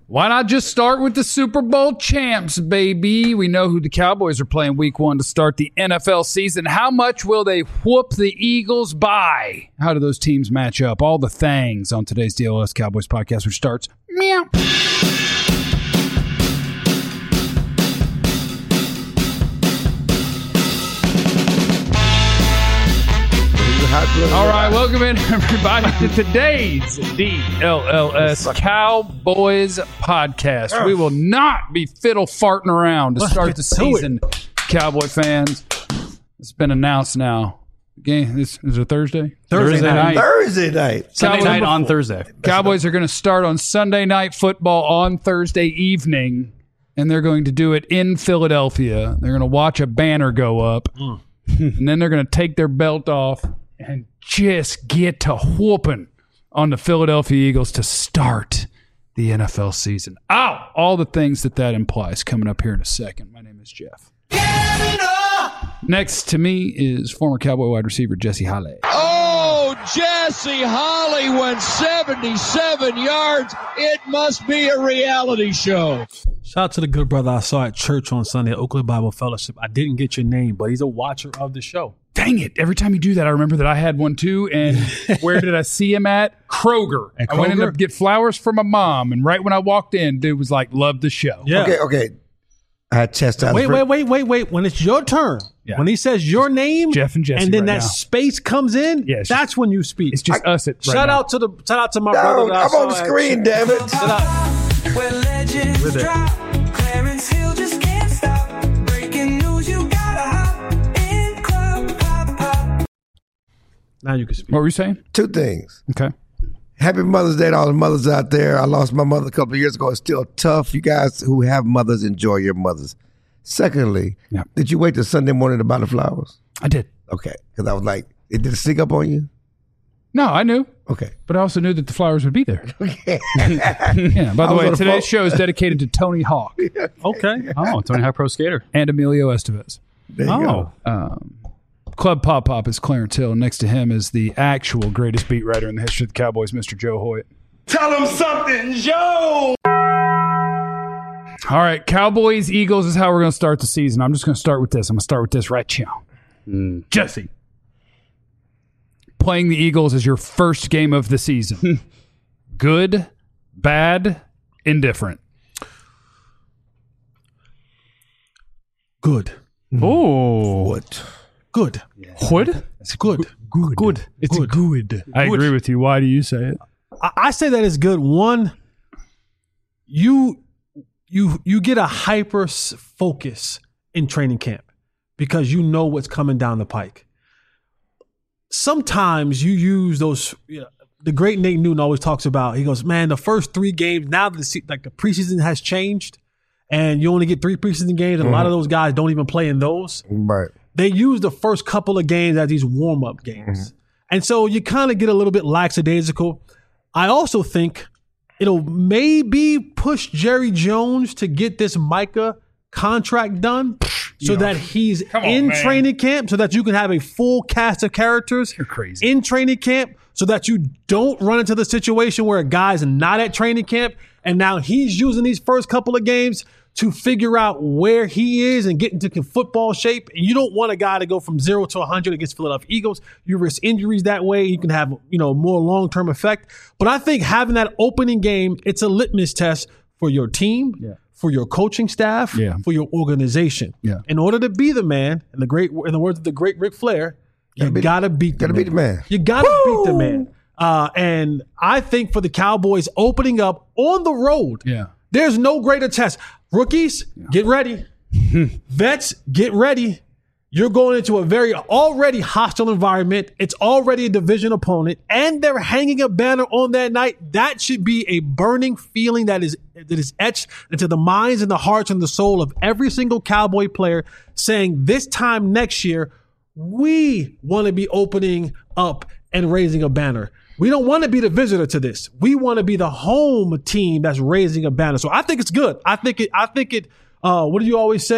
Why not just start with the Super Bowl champs, baby? We know who the Cowboys are playing week 1 to start the NFL season. How much will they whoop the Eagles by? How do those teams match up? All the things on today's DLS Cowboys podcast, which starts meow. All right, welcome in, everybody, to today's DLLS Cowboys podcast. We will not be fiddle farting around to start the season, Cowboy fans. It's been announced now. Game is it Thursday? Thursday night. Thursday night. Sunday night on Thursday. Cowboys are going to start on Sunday Night Football on Thursday evening, and they're going to do it in Philadelphia. They're going to watch a banner go up, and then they're going to take their belt off and just get to whooping on the Philadelphia Eagles to start the NFL season. All the things that implies coming up here in a second. My name is Jeff. Next to me is former Cowboy wide receiver Jesse Holley. Oh, Jesse Holley went 77 yards. It must be a reality show. Shout out to the good brother I saw at church on Sunday at Oakland Bible Fellowship. I didn't get your name, but he's a watcher of the show. Dang it. Every time you do that, I remember that I had one too. And where did I see him at? Kroger. I went in to get flowers for my mom. And right when I walked in, dude was like, love the show. Yeah. Okay. I had chastised. Wait. When it's your turn, when he says your name, Jeff and Jesse, and then right that now. Space comes in, that's when you speak. It's just us. Shout out to my brother. I'm on the screen, damn it. Shout out. Where legends drop, Clarence Hill just can't stop. Breaking news, you gotta hop in club pop. Now you can speak. What were you saying? 2 things. Okay. Happy Mother's Day to all the mothers out there. I lost my mother a couple of years ago. It's still tough. You guys who have mothers, enjoy your mothers. Secondly, did you wait till Sunday morning to buy the flowers? I did. Okay. Because I was like, did it sneak up on you? No, I knew. Okay. But I also knew that the flowers would be there. Okay. By the way, today's show is dedicated to Tony Hawk. Okay. Oh, Tony Hawk Pro Skater. And Emilio Estevez. There you go. Club Pop is Clarence Hill. Next to him is the actual greatest beat writer in the history of the Cowboys, Mr. Joe Hoyt. Tell him something, Joe. All right, Cowboys, Eagles is how we're going to start the season. I'm just going to start with this. I'm going to start with this right now. Jesse. Playing the Eagles is your first game of the season. Good, bad, indifferent. Good. Oh. What? Good. What? It's good. Good. It's good. I agree with you. Why do you say it? I say that it's good. One, you get a hyper focus in training camp because you know what's coming down the pike. Sometimes you use those. The great Nate Newton always talks about. He goes, man, the first 3 games now that the preseason has changed, and you only get 3 preseason games, and a lot of those guys don't even play in those. Right. They use the first couple of games as these warm-up games. And so you kind of get a little bit lackadaisical. I also think it'll maybe push Jerry Jones to get this Micah contract done so that he's in training camp, so that you can have a full cast of characters in training camp, so that you don't run into the situation where a guy's not at training camp and now he's using these first couple of games to figure out where he is and get into football shape. And you don't want a guy to go from 0 to 100 against Philadelphia Eagles. You risk injuries that way. You can have, more long-term effect. But I think having that opening game, it's a litmus test for your team, for your coaching staff, for your organization. Yeah. In order to be the man, in the words of the great Ric Flair, you gotta beat the man. You gotta beat the man. And I think for the Cowboys opening up on the road, there's no greater test. Rookies, get ready. Vets, get ready. You're going into a very already hostile environment. It's already a division opponent, and they're hanging a banner on that night. That should be a burning feeling that is etched into the minds and the hearts and the soul of every single Cowboy player, saying this time next year, we want to be opening up and raising a banner. We don't want to be the visitor to this. We want to be the home team that's raising a banner. So I think it's good. I think it. What do you always say?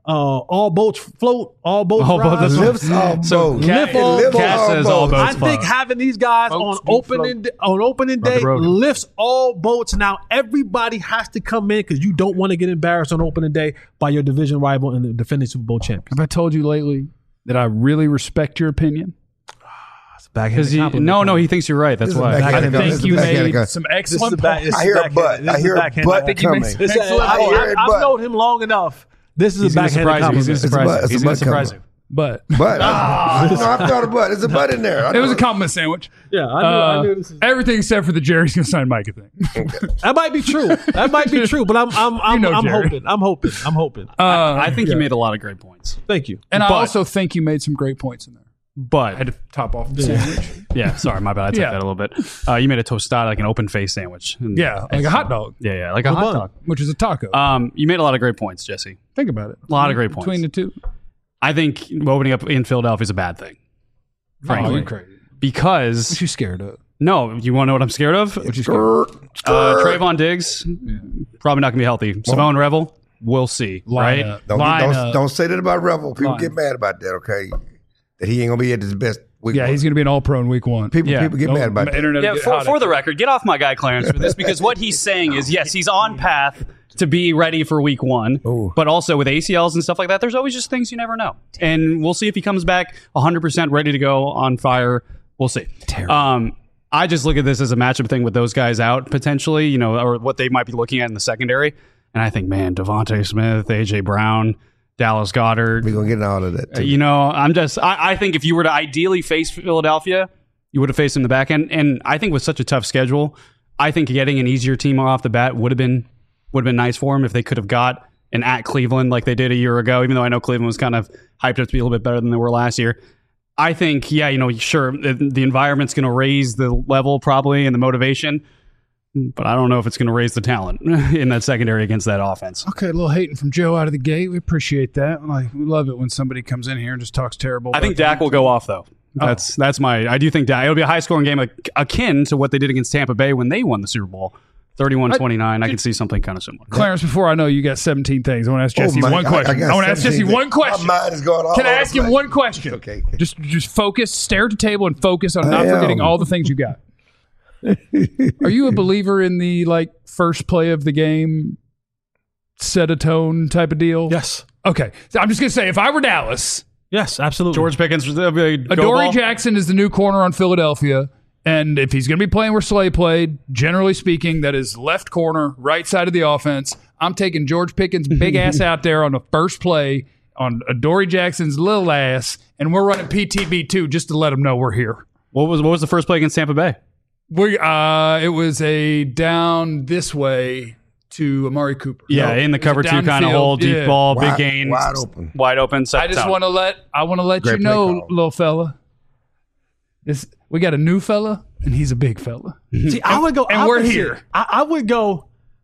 all boats float, all boats rise. Lifts all boats. Lift all Lifts boats. Cat says all boats I think float. having these guys Boats on do opening day road. lifts all boats. Now everybody has to come in because you don't want to get embarrassed on opening day by your division rival and the defending Super Bowl champions. Have I told you lately that I really respect your opinion? Because no, he thinks you're right. That's This is why. back- I This think is you backhanded. made some excellent points. I hear a butt. I hear a butt coming. I've known him long enough. This is He's a going to backhanded surprise you. He's going to compliment. It's a surprise you. butt He's going to surprise coming. you. But But I've thought of butt. There's a butt in there. it was a compliment sandwich. Yeah, I knew this. Everything except for the Jerry's gonna sign Micah thing. That might be true. That might be true. But I'm Jerry. hoping. I think you made a lot of great points. Thank you. And I But- also think you made some great points in there. I had But, to top off the sandwich. yeah, sorry, my bad. I took Yeah. that a little bit. You made a tostada, like an open face sandwich. And- Yeah, like a hot dog, Yeah, like a hot bun. dog. which is a taco. You made a lot of great points, Jesse. Think about it. A lot of great points. Between the two. I think opening up in Philadelphia is a bad thing. Oh, Frankly. you're crazy. Because, What you scared of? no, you want to know what I'm scared of? Trayvon Diggs, probably not going to be healthy. Simone Revel, we'll see, right? Don't say that about Revel. People Line get mad about that, okay? That he ain't going to be at his best week. Yeah, he's going to be an all-pro in week one. People get mad about that. Internet Yeah, get for, hot for at the you. record, get off my guy Clarence for this, because what he's saying is, yes, he's on path to be ready for week one, Ooh. but also with ACLs and stuff like that, there's always just things you never know. And we'll see if he comes back 100% ready to go on fire. We'll see. I just look at this as a matchup thing with those guys out potentially, or what they might be looking at in the secondary. And I think, man, Devontae Smith, AJ Brown, Dallas Goedert, We're going to get into all of that, too. I think if you were to ideally face Philadelphia, you would have faced them in the back end. And I think with such a tough schedule, I think getting an easier team off the bat would have been nice for them if they could have got an at Cleveland like they did a year ago, even though I know Cleveland was kind of hyped up to be a little bit better than they were last year. I think, sure, the environment's going to raise the level probably and the motivation, but I don't know if it's going to raise the talent in that secondary against that offense. Okay, a little hating from Joe out of the gate. We appreciate that. We love it when somebody comes in here and just talks terrible. I think about Dak will go off, though. That's I do think Dak. It'll be a high-scoring game akin to what they did against Tampa Bay when they won the Super Bowl, 31-29. I could see something kind of similar. Clarence, before I know you got 17 things, I want to ask Jesse one question. I want to ask Jesse one question. My mind is going all Can I over ask the him place. one question? Okay. Just focus, stare at the table, and focus on not I am. forgetting all the things you got. Are you a believer in the first play of the game, set a tone type of deal? Yes. Okay. So I'm just gonna say, if I were Dallas, Yes, absolutely. George Pickens, Adoree Jackson is the new corner on Philadelphia. And if he's going to be playing where Slay played, generally speaking, that is left corner, right side of the offense. I'm taking George Pickens' big ass out there on the first play on Adoree Jackson's little ass, and we're running PTB2 just to let him know we're here. What was the first play against Tampa Bay? It was a down this way to Amari Cooper. Yeah, in the cover two kind of hole, deep ball, big gain, Wide open. wide open. I just want to let Great you play know, call. little fella. We got a new fella, and he's a big fella. See, I would go, and we're opposite. here. I would go,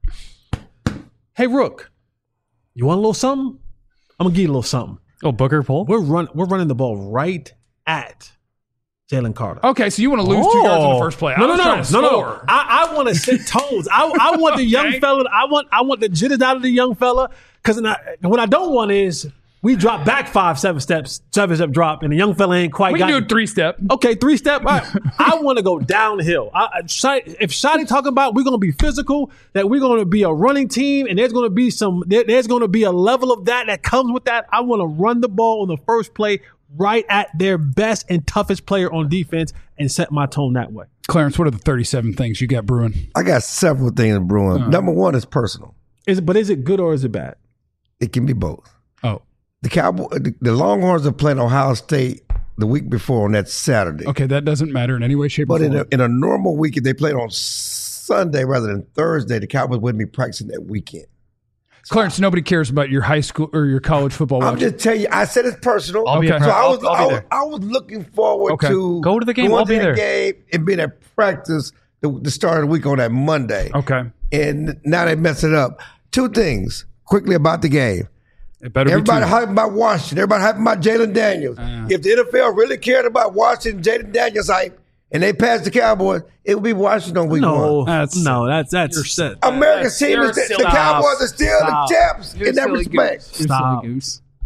hey, Rook, you want a little something? I'm gonna give you a little something. Oh, Booker pull. We're running the ball right at Jalen Carter. Okay, so you want to lose 2 yards on the first play? I was trying to score. I want to set tones. I want the young fella. I want the jitters out of the young fella. Because what I don't want is we drop back 7 step drop, and the young fella ain't quite. We can do a 3-step. Okay, 3-step. All right. I want to go downhill. If Shotty talking about we're going to be physical, that we're going to be a running team, and there's going to be a level of that comes with that. I want to run the ball on the first play right at their best and toughest player on defense and set my tone that way. Clarence, what are the 37 things you got brewing? I got several things brewing. Number one is personal. Is it good or is it bad? It can be both. Oh, The Longhorns are playing Ohio State the week before on that Saturday. okay, that doesn't matter in any way, shape, or But form. in a normal week, if they played on Sunday rather than Thursday, the Cowboys wouldn't be practicing that weekend. Clarence, nobody cares about your high school or your college football. I'm watching. just telling you, I said it's personal. I'll be Okay. at So I was, I'll be there. I was looking forward Okay. to Go to the game. going I'll be to the there. game and being at practice the start of the week on that Monday. Okay, And now they mess it up. 2 things quickly about the game. it better Everybody be hyping about Washington. Everybody hyping about Jalen Daniels. If the NFL really cared about Washington, Jalen Daniels hype, and they passed the Cowboys, it would be Washington on week one. That's America's team is the Cowboys are still the champs in that respect. Stop.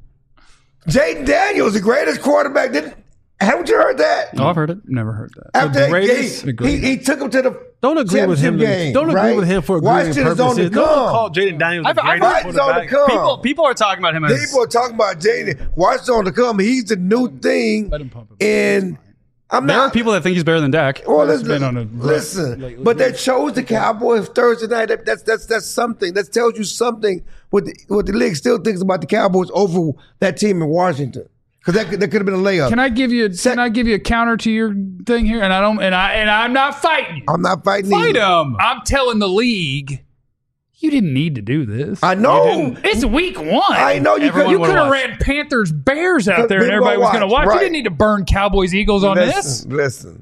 Jaden Daniels, the greatest quarterback. Haven't you heard that? Oh, I've heard it. Never heard that. After greatest- he took him to the Don't agree with him. game. Don't agree right? with him for agreeing Washington is on the purposes. No one come. called Jaden Daniels the I've greatest heard- Washington's on the quarterback. come. People are talking about him as People are talking about Jaden. Washington's on the come. He's the new thing. Let him pump it. And I'm there not. are people that think he's better than Dak. Well, been on a listen, but they chose the Cowboys Thursday night. That's something. That tells you something. What the league still thinks about the Cowboys over that team in Washington, because that could have been a layup. Can I give you a counter to your thing here? And I'm not fighting you. I'm not fighting. Fight either. him. I'm telling the league, you didn't need to do this. I know. It's week 1. I know you could. Everyone You would've could have watched. ran Panthers Bears out there and People everybody was going to watch, watch. right. You didn't need to burn Cowboys Eagles on this. Listen.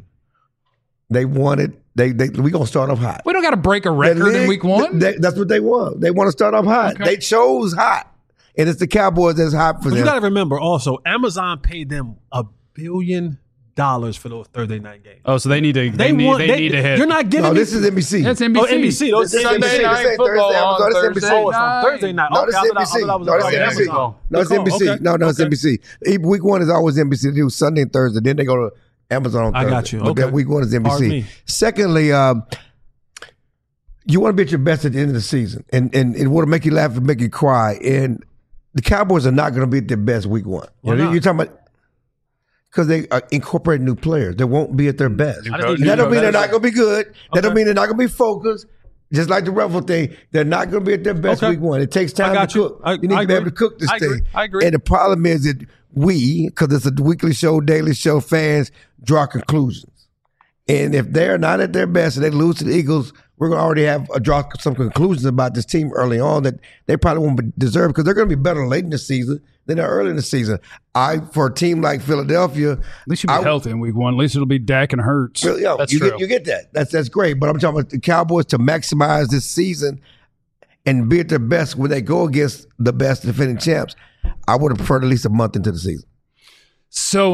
They wanted. We gonna start off hot. We don't got to break a The record in league, week 1. That's what they want. They want to start off hot. Okay. They chose hot, and it's the Cowboys that's hot for But them. you got to remember also, Amazon paid them $1 billion for those Thursday night games. Oh, so they need to. They need to hit. You're not giving no, me. this is NBC. That's NBC. Oh, NBC. Those This is Sunday NBC. night This ain't football Thursday, on Amazon. This Thursday NBC. Oh, it's on Thursday night. No, Okay, this I is thought NBC. that was No, this is on NBC. Amazon. No, it's NBC. Okay. No, it's NBC. Week 1 is always NBC. They do Sunday and Thursday. Then they go to Amazon on I Thursday. got you. But Okay. that week 1 is Pardon NBC. me. Secondly, you want to be at your best at the end of the season, and it want to make you laugh and make you cry. And the Cowboys are not going to be at their best week 1. Why not? You're talking about because they incorporate new players. They won't be at their best. I didn't That don't mean they're that. not going to be good. That don't Okay. mean they're not going to be focused. Just like the Ruffle thing, they're not going to be at their best Okay. week 1. It takes time I got to you. cook. I You need to be agree. able to cook this I agree. thing. I agree. And the problem is that because it's a weekly show, daily show, fans draw conclusions. And if they're not at their best and they lose to the Eagles, we're going to already have draw some conclusions about this team early on that they probably won't deserve because they're going to be better late in the season than they're early in the season. For a team like Philadelphia, At least you'll be healthy in week 1. At least it'll be Dak and Hurts. That's you true. get that. That's great. But I'm talking about the Cowboys to maximize this season and be at their best when they go against the best defending champs. I would have preferred at least a month into the season. So,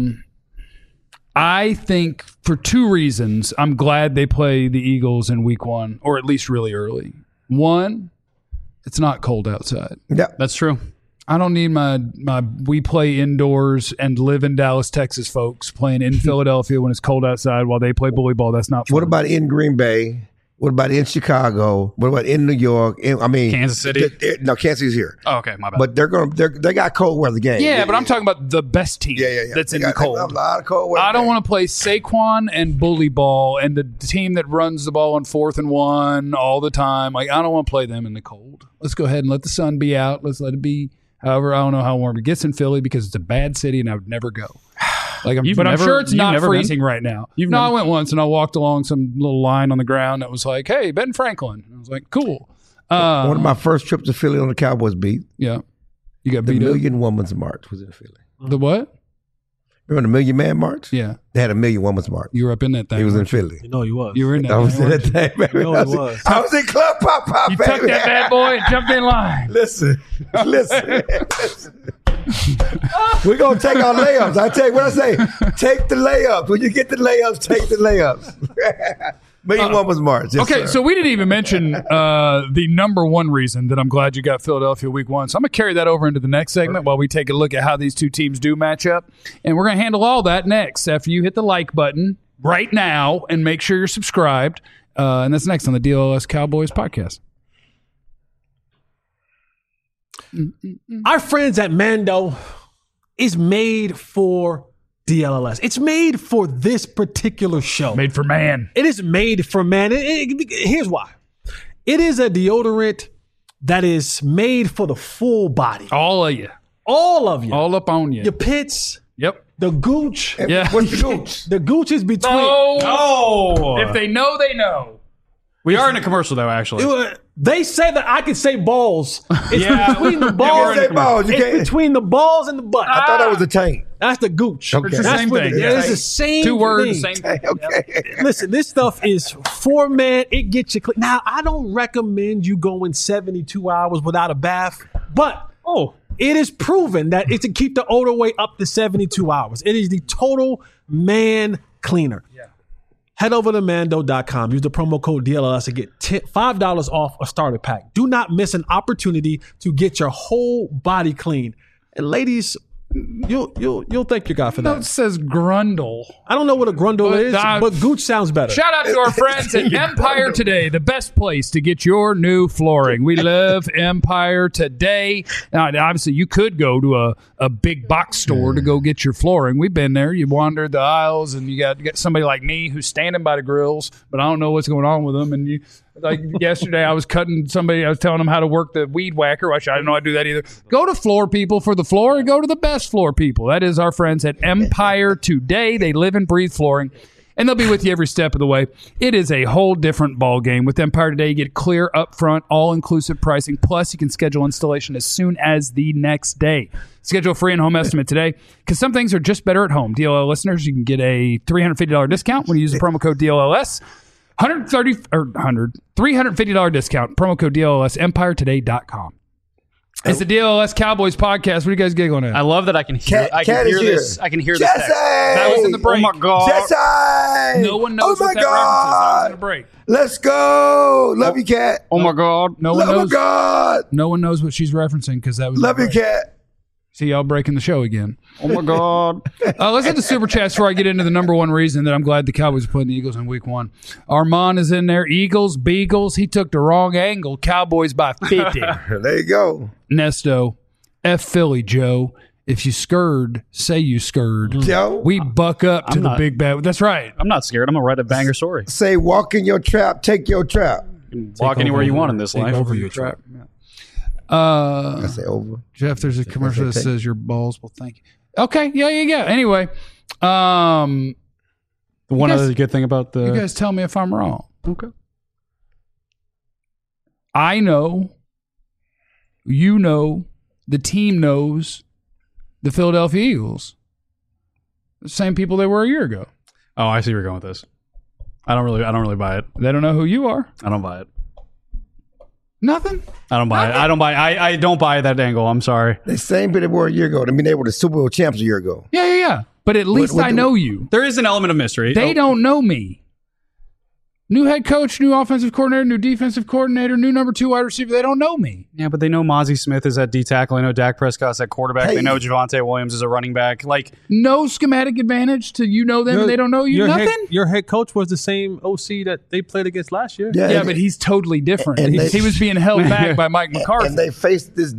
I think for 2 reasons, I'm glad they play the Eagles in week 1, or at least really early. One, it's not cold outside. Yeah. That's true. I don't need my we play indoors and live in Dallas, Texas folks playing in Philadelphia when it's cold outside while they play bully ball. That's not fun. What about in Green Bay? What about in Chicago? What about in New York? Kansas City? No, Kansas City's here. Oh, okay, my bad. But they got cold weather games. Yeah, but I'm talking about the best team that's They in the got cold. A lot of cold weather I don't games. want to play Saquon and bully ball and the team that runs the ball on 4th and 1 all the time. Like, I don't want to play them in the cold. Let's go ahead and let the sun be out. Let's let it be. However, I don't know how warm it gets in Philly because it's a bad city and I would never go. Like, I'm sure it's not freezing right now. I went once and I walked along some little line on the ground that was like, "Hey, Ben Franklin." And I was like, "Cool." One of my first trips to Philly on the Cowboys beat. Yeah, you got The beat up. Million Women's March was in Philly. The what? Remember the Million Man March? Yeah, They had a Million Women's March. you were up in that thing. He was in weren't you? Philly. You know he was. You were in that. I was thing, in weren't that thing, baby. You know I he was, was. I was in Club Pop Pop, you baby. took that bad boy and jumped in line. Listen. We're going to take our layups. I tell you what I say. Take the layups. When you get the layups, take the layups. Million Women's March. Yes, Okay, sir. so we didn't even mention the number one reason that I'm glad you got Philadelphia week 1. So I'm going to carry that over into the next segment while we take a look at how these two teams do match up. And we're going to handle all that next after you hit the like button right now and make sure you're subscribed. And that's next on the DLS Cowboys podcast. Our friends at Mando is made for DLLS. It's made for this particular show. Made for man. It is made for man. Here's why. It is a deodorant that is made for the full body. All of you. All of you. All up on you. Your pits, Yep. the gooch. Yeah. What's the gooch? The gooch is between. Oh, If they know, they know. we are in a commercial though. Actually, They say that I can say balls. It's Yeah. between the You balls. can't say balls. You It's can't. between the balls and the butt. I thought that was a tank. That's the gooch. Okay. It's the That's same what thing, it is. yeah. It's the same 2 words, thing. same thing. Okay. Listen, this stuff is for man. It gets you clean. Now, I don't recommend you going 72 hours without a bath, but it is proven that it can keep the odor away up to 72 hours. It is the total man cleaner. Yeah. Head over to Mando.com. Use the promo code DLLS to get $5 off a starter pack. Do not miss an opportunity to get your whole body clean. And ladies, You'll thank your guy for No, it that. says Grundle. I don't know what a grundle is, but Gooch sounds better. Shout out to our friends at Empire Today, the best place to get your new flooring. We love Empire Today. Now, obviously, you could go to a big box store to go get your flooring. We've been there. You wander the aisles, and you got somebody like me who's standing by the grills, but I don't know what's going on with them. And you, like yesterday, I was cutting somebody. I was telling them how to work the weed whacker. Which I didn't know how to do that either. Go to Floor People for the floor, and go to the best floor people. That is our friends at Empire Today. They live and breathe flooring, and they'll be with you every step of the way. It is a whole different ball game with Empire Today. You get clear, upfront, all-inclusive pricing. Plus, you can schedule installation as soon as the next day. Schedule a free and home estimate today, because some things are just better at home. DLL listeners, you can get a $350 discount when you use the promo code DLLS. $350 discount. Promo code DLLS. EmpireToday.com. It's the DLLS Cowboys podcast. What are you guys giggling at? I love that I can hear. Cat- I can Cat hear is here. this. I can hear this. Jesse! Text. That was in the break. Oh my god! Jesse! No one knows Oh what my that reference is. That was in God! the break. Let's go. Love you, Cat. Oh my god! No one Love you, knows. God. No one knows what she's referencing because that was in Love the you, break. Cat. See y'all breaking the show again. Oh my god! Let's hit the super chats before I get into the number one reason that I'm glad the Cowboys are playing the Eagles in week one. Armand is in there. Eagles, Beagles. He took the wrong angle. Cowboys by 50. There you go. Nesto, F Philly, Joe. If you scurred, say you scurred. Joe. We buck up to I'm the not- big bad. That's right. I'm not scared. I'm gonna write a banger story. Say, walk in your trap, take your trap. Walk anywhere you want in this life. over your trap. I say over. Jeff, there's a commercial that says your balls will thank you. Okay, yeah. Anyway, One guys- other good thing about the you guys tell me if I'm wrong. okay. I know, you know, the team knows the Philadelphia Eagles. The same people they were a year ago. Oh, I see where you're going with this. I don't really buy it. They don't know who you are. I don't buy it. Nothing. I don't buy it. I don't buy that angle. I'm sorry. The same people they were a year ago. I mean, they were the Super Bowl champs a year ago. Yeah. But at least what I do- know you. There is an element of mystery. They don't know me. New head coach, new offensive coordinator, new defensive coordinator, new number 2 wide receiver. They don't know me. Yeah, but they know Mozzie Smith is at D tackle. I know Dak Prescott's at quarterback. Hey. They know Javonte Williams is a running back. Like, No schematic advantage to you know them and they don't know you. Your Nothing. your head coach was the same OC that they played against last year. Yeah, and- but he's totally different. and they- he was being held back by Mike McCarthy. and they faced this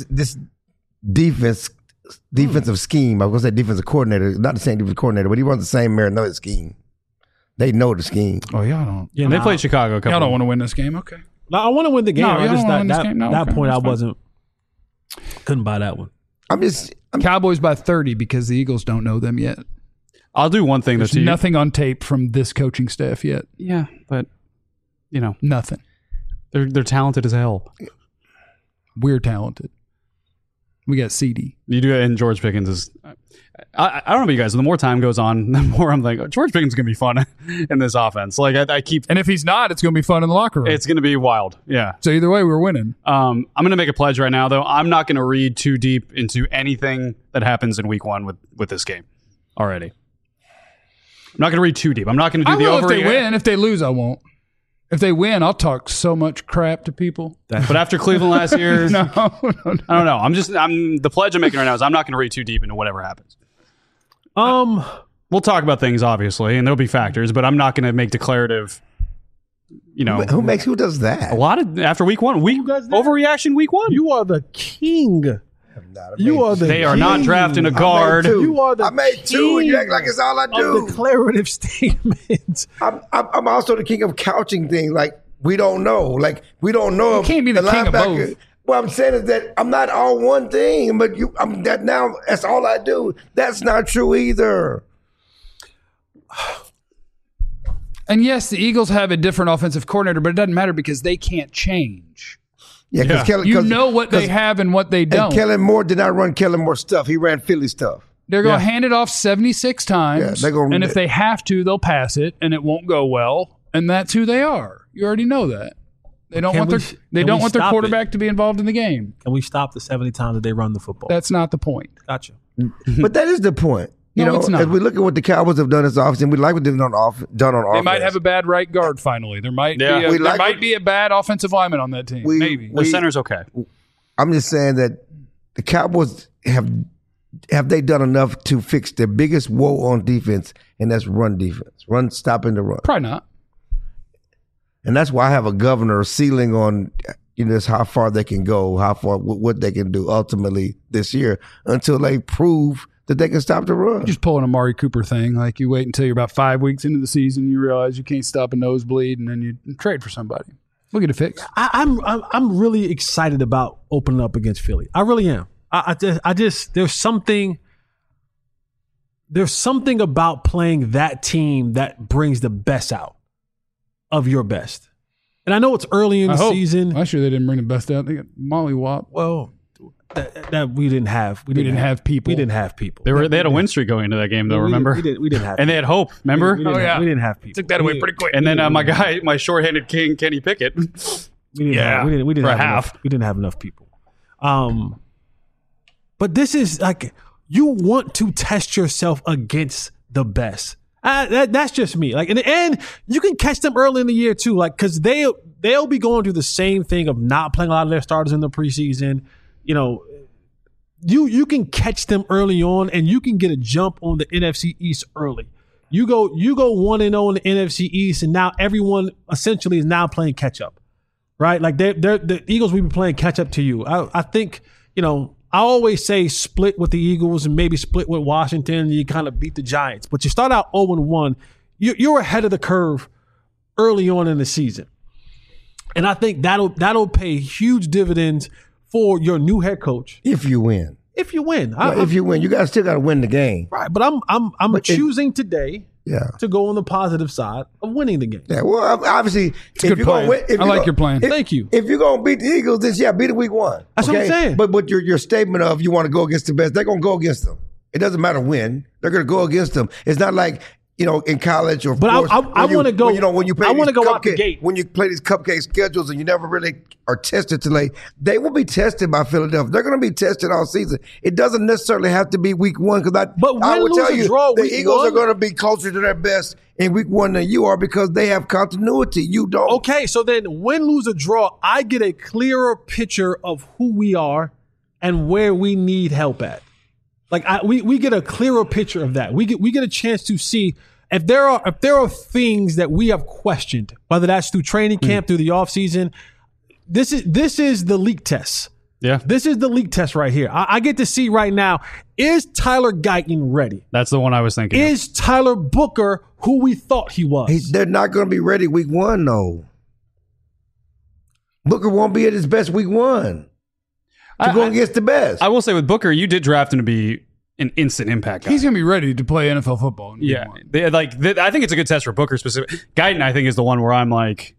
defensive scheme. I was going to say defensive coordinator, not the same defensive coordinator, but he runs the same Marinelli scheme. They know the scheme. Oh, y'all don't. Yeah, they nah. played Chicago a couple Y'all don't want to win this game. Okay. Now, I want to win the game. No, I you just don't wanna win this that game? No, that okay, point I that's fine. couldn't buy that one. I'm Cowboys by 30 because the Eagles don't know them yet. I'll do one thing There's that's nothing on tape from this coaching staff yet. Yeah, but you know Nothing. they're talented as hell. We're talented. We got CD. You do, and George Pickens is. I don't know about you guys. The more time goes on, the more I'm like, George Pickens is gonna be fun in this offense. Like I keep, And if he's not, it's going to be fun in the locker room. it's gonna be wild. Yeah. So either way, we're winning. I'm gonna make a pledge right now, though. I'm not gonna read too deep into anything that happens in Week 1 with this game already. I'm not gonna read too deep. I'm not gonna do I the will if over. they win. If they lose, I won't. If they win, I'll talk so much crap to people. But after Cleveland last year, No. I don't know. I'm the pledge I'm making right now is I'm not gonna read too deep into whatever happens. We'll talk about things obviously, and there'll be factors, but I'm not gonna make declarative. You know, who does that? a lot of after Week 1, guys did? overreaction Week 1. You are the king. You are the They are not king drafting a guard. You are the I made 2 and you act like it's all I of do. declarative statements. I'm also the king of couching things. Like, we don't know. Like, we don't know. You can't be the king of linebacker- both. What I'm saying is that I'm not all one thing, but that's all I do. That's not true either. And yes, the Eagles have a different offensive coordinator, but it doesn't matter because they can't change. Yeah, because Kellen, You know what they have and what they and don't. Kellen Moore did not run Kellen Moore stuff. He ran Philly stuff. They're going to hand it off 76 times. Yeah, they're gonna- and if they have to, they'll pass it, and it won't go well. And that's who they are. You already know that. They don't Can want we- their they can don't we want their stop quarterback to be involved in the game. Can we stop the 70 times that they run the football? That's not the point. Gotcha. But that is the point. You No, know, it's not. as we look at what the Cowboys have done as offense, and we like what they've done on offense. They might have a bad right guard finally. There might Yeah. be We there like might what- be a bad offensive lineman on that team. Maybe. The center's okay. I'm just saying that the Cowboys have have they done enough to fix their biggest woe on defense, and that's run defense, stopping the run. Probably not. And that's why I have a governor ceiling on just how far they can go, how far what they can do ultimately this year until they prove that they can stop the run. Just pull an Amari Cooper thing. Like you wait until you're about 5 weeks into the season, you realize you can't stop a nosebleed, and then you trade for somebody. We'll get it fixed. I'm really excited about opening up against Philly. I really am. I just there's something about playing that team that brings the best out of your best. And I know it's early in the season. Last year they didn't bring the best out. They got mollywop. Well, that we didn't have. We didn't have people. We didn't have people. They had a win streak going into that game, though. Remember? We didn't have. And they had hope. Remember? We didn't have people. Took that away pretty quick. And then my shorthanded king Kenny Pickett. We didn't have half. Enough, we didn't have enough people. But this is like you want to test yourself against the best. That's just me. Like in the end, you can catch them early in the year too. Like because they'll be going through the same thing of not playing a lot of their starters in the preseason. You know, you can catch them early on, and you can get a jump on the NFC East early. You go 1-0 in the NFC East, and now everyone essentially is now playing catch up, right? Like the Eagles will be playing catch up to you. I think I always say split with the Eagles and maybe split with Washington. And you kind of beat the Giants, but you start out 0-1. You're ahead of the curve early on in the season, and I think that'll pay huge dividends for your new head coach if you win. If you win, if you win, you still got to win the game, right? But I'm choosing today, to go on the positive side of winning the game. Yeah, well, obviously, it's a good plan. I like your plan. Thank you. If you're gonna beat the Eagles, then beat it week 1. That's what I'm saying. But your statement of you want to go against the best, they're gonna go against them. It doesn't matter when they're gonna go against them. It's not like in college or. But I want to go. When you play, I want to go out the gate. When you play these cupcake schedules and you never really are tested till they will be tested by Philadelphia. They're going to be tested all season. It doesn't necessarily have to be week 1 because I would tell you the Eagles are going to be closer to their best in week 1 than you are because they have continuity. You don't. Okay, so then win, lose, or draw, I get a clearer picture of who we are and where we need help at. Like we get a clearer picture of that. We get a chance to see if there are things that we have questioned, whether that's through training camp, through the offseason. This is the leak test. Yeah. This is the leak test right here. I get to see right now, is Tyler Guyton ready? That's the one I was thinking. Is Tyler Booker who we thought he was? They're not going to be ready week 1, though. Booker won't be at his best week 1 to go against the best. I will say with Booker, you did draft him to be an instant impact guy. He's going to be ready to play NFL football. Yeah. I think it's a good test for Booker specific. Guyton, I think, is the one where I'm like,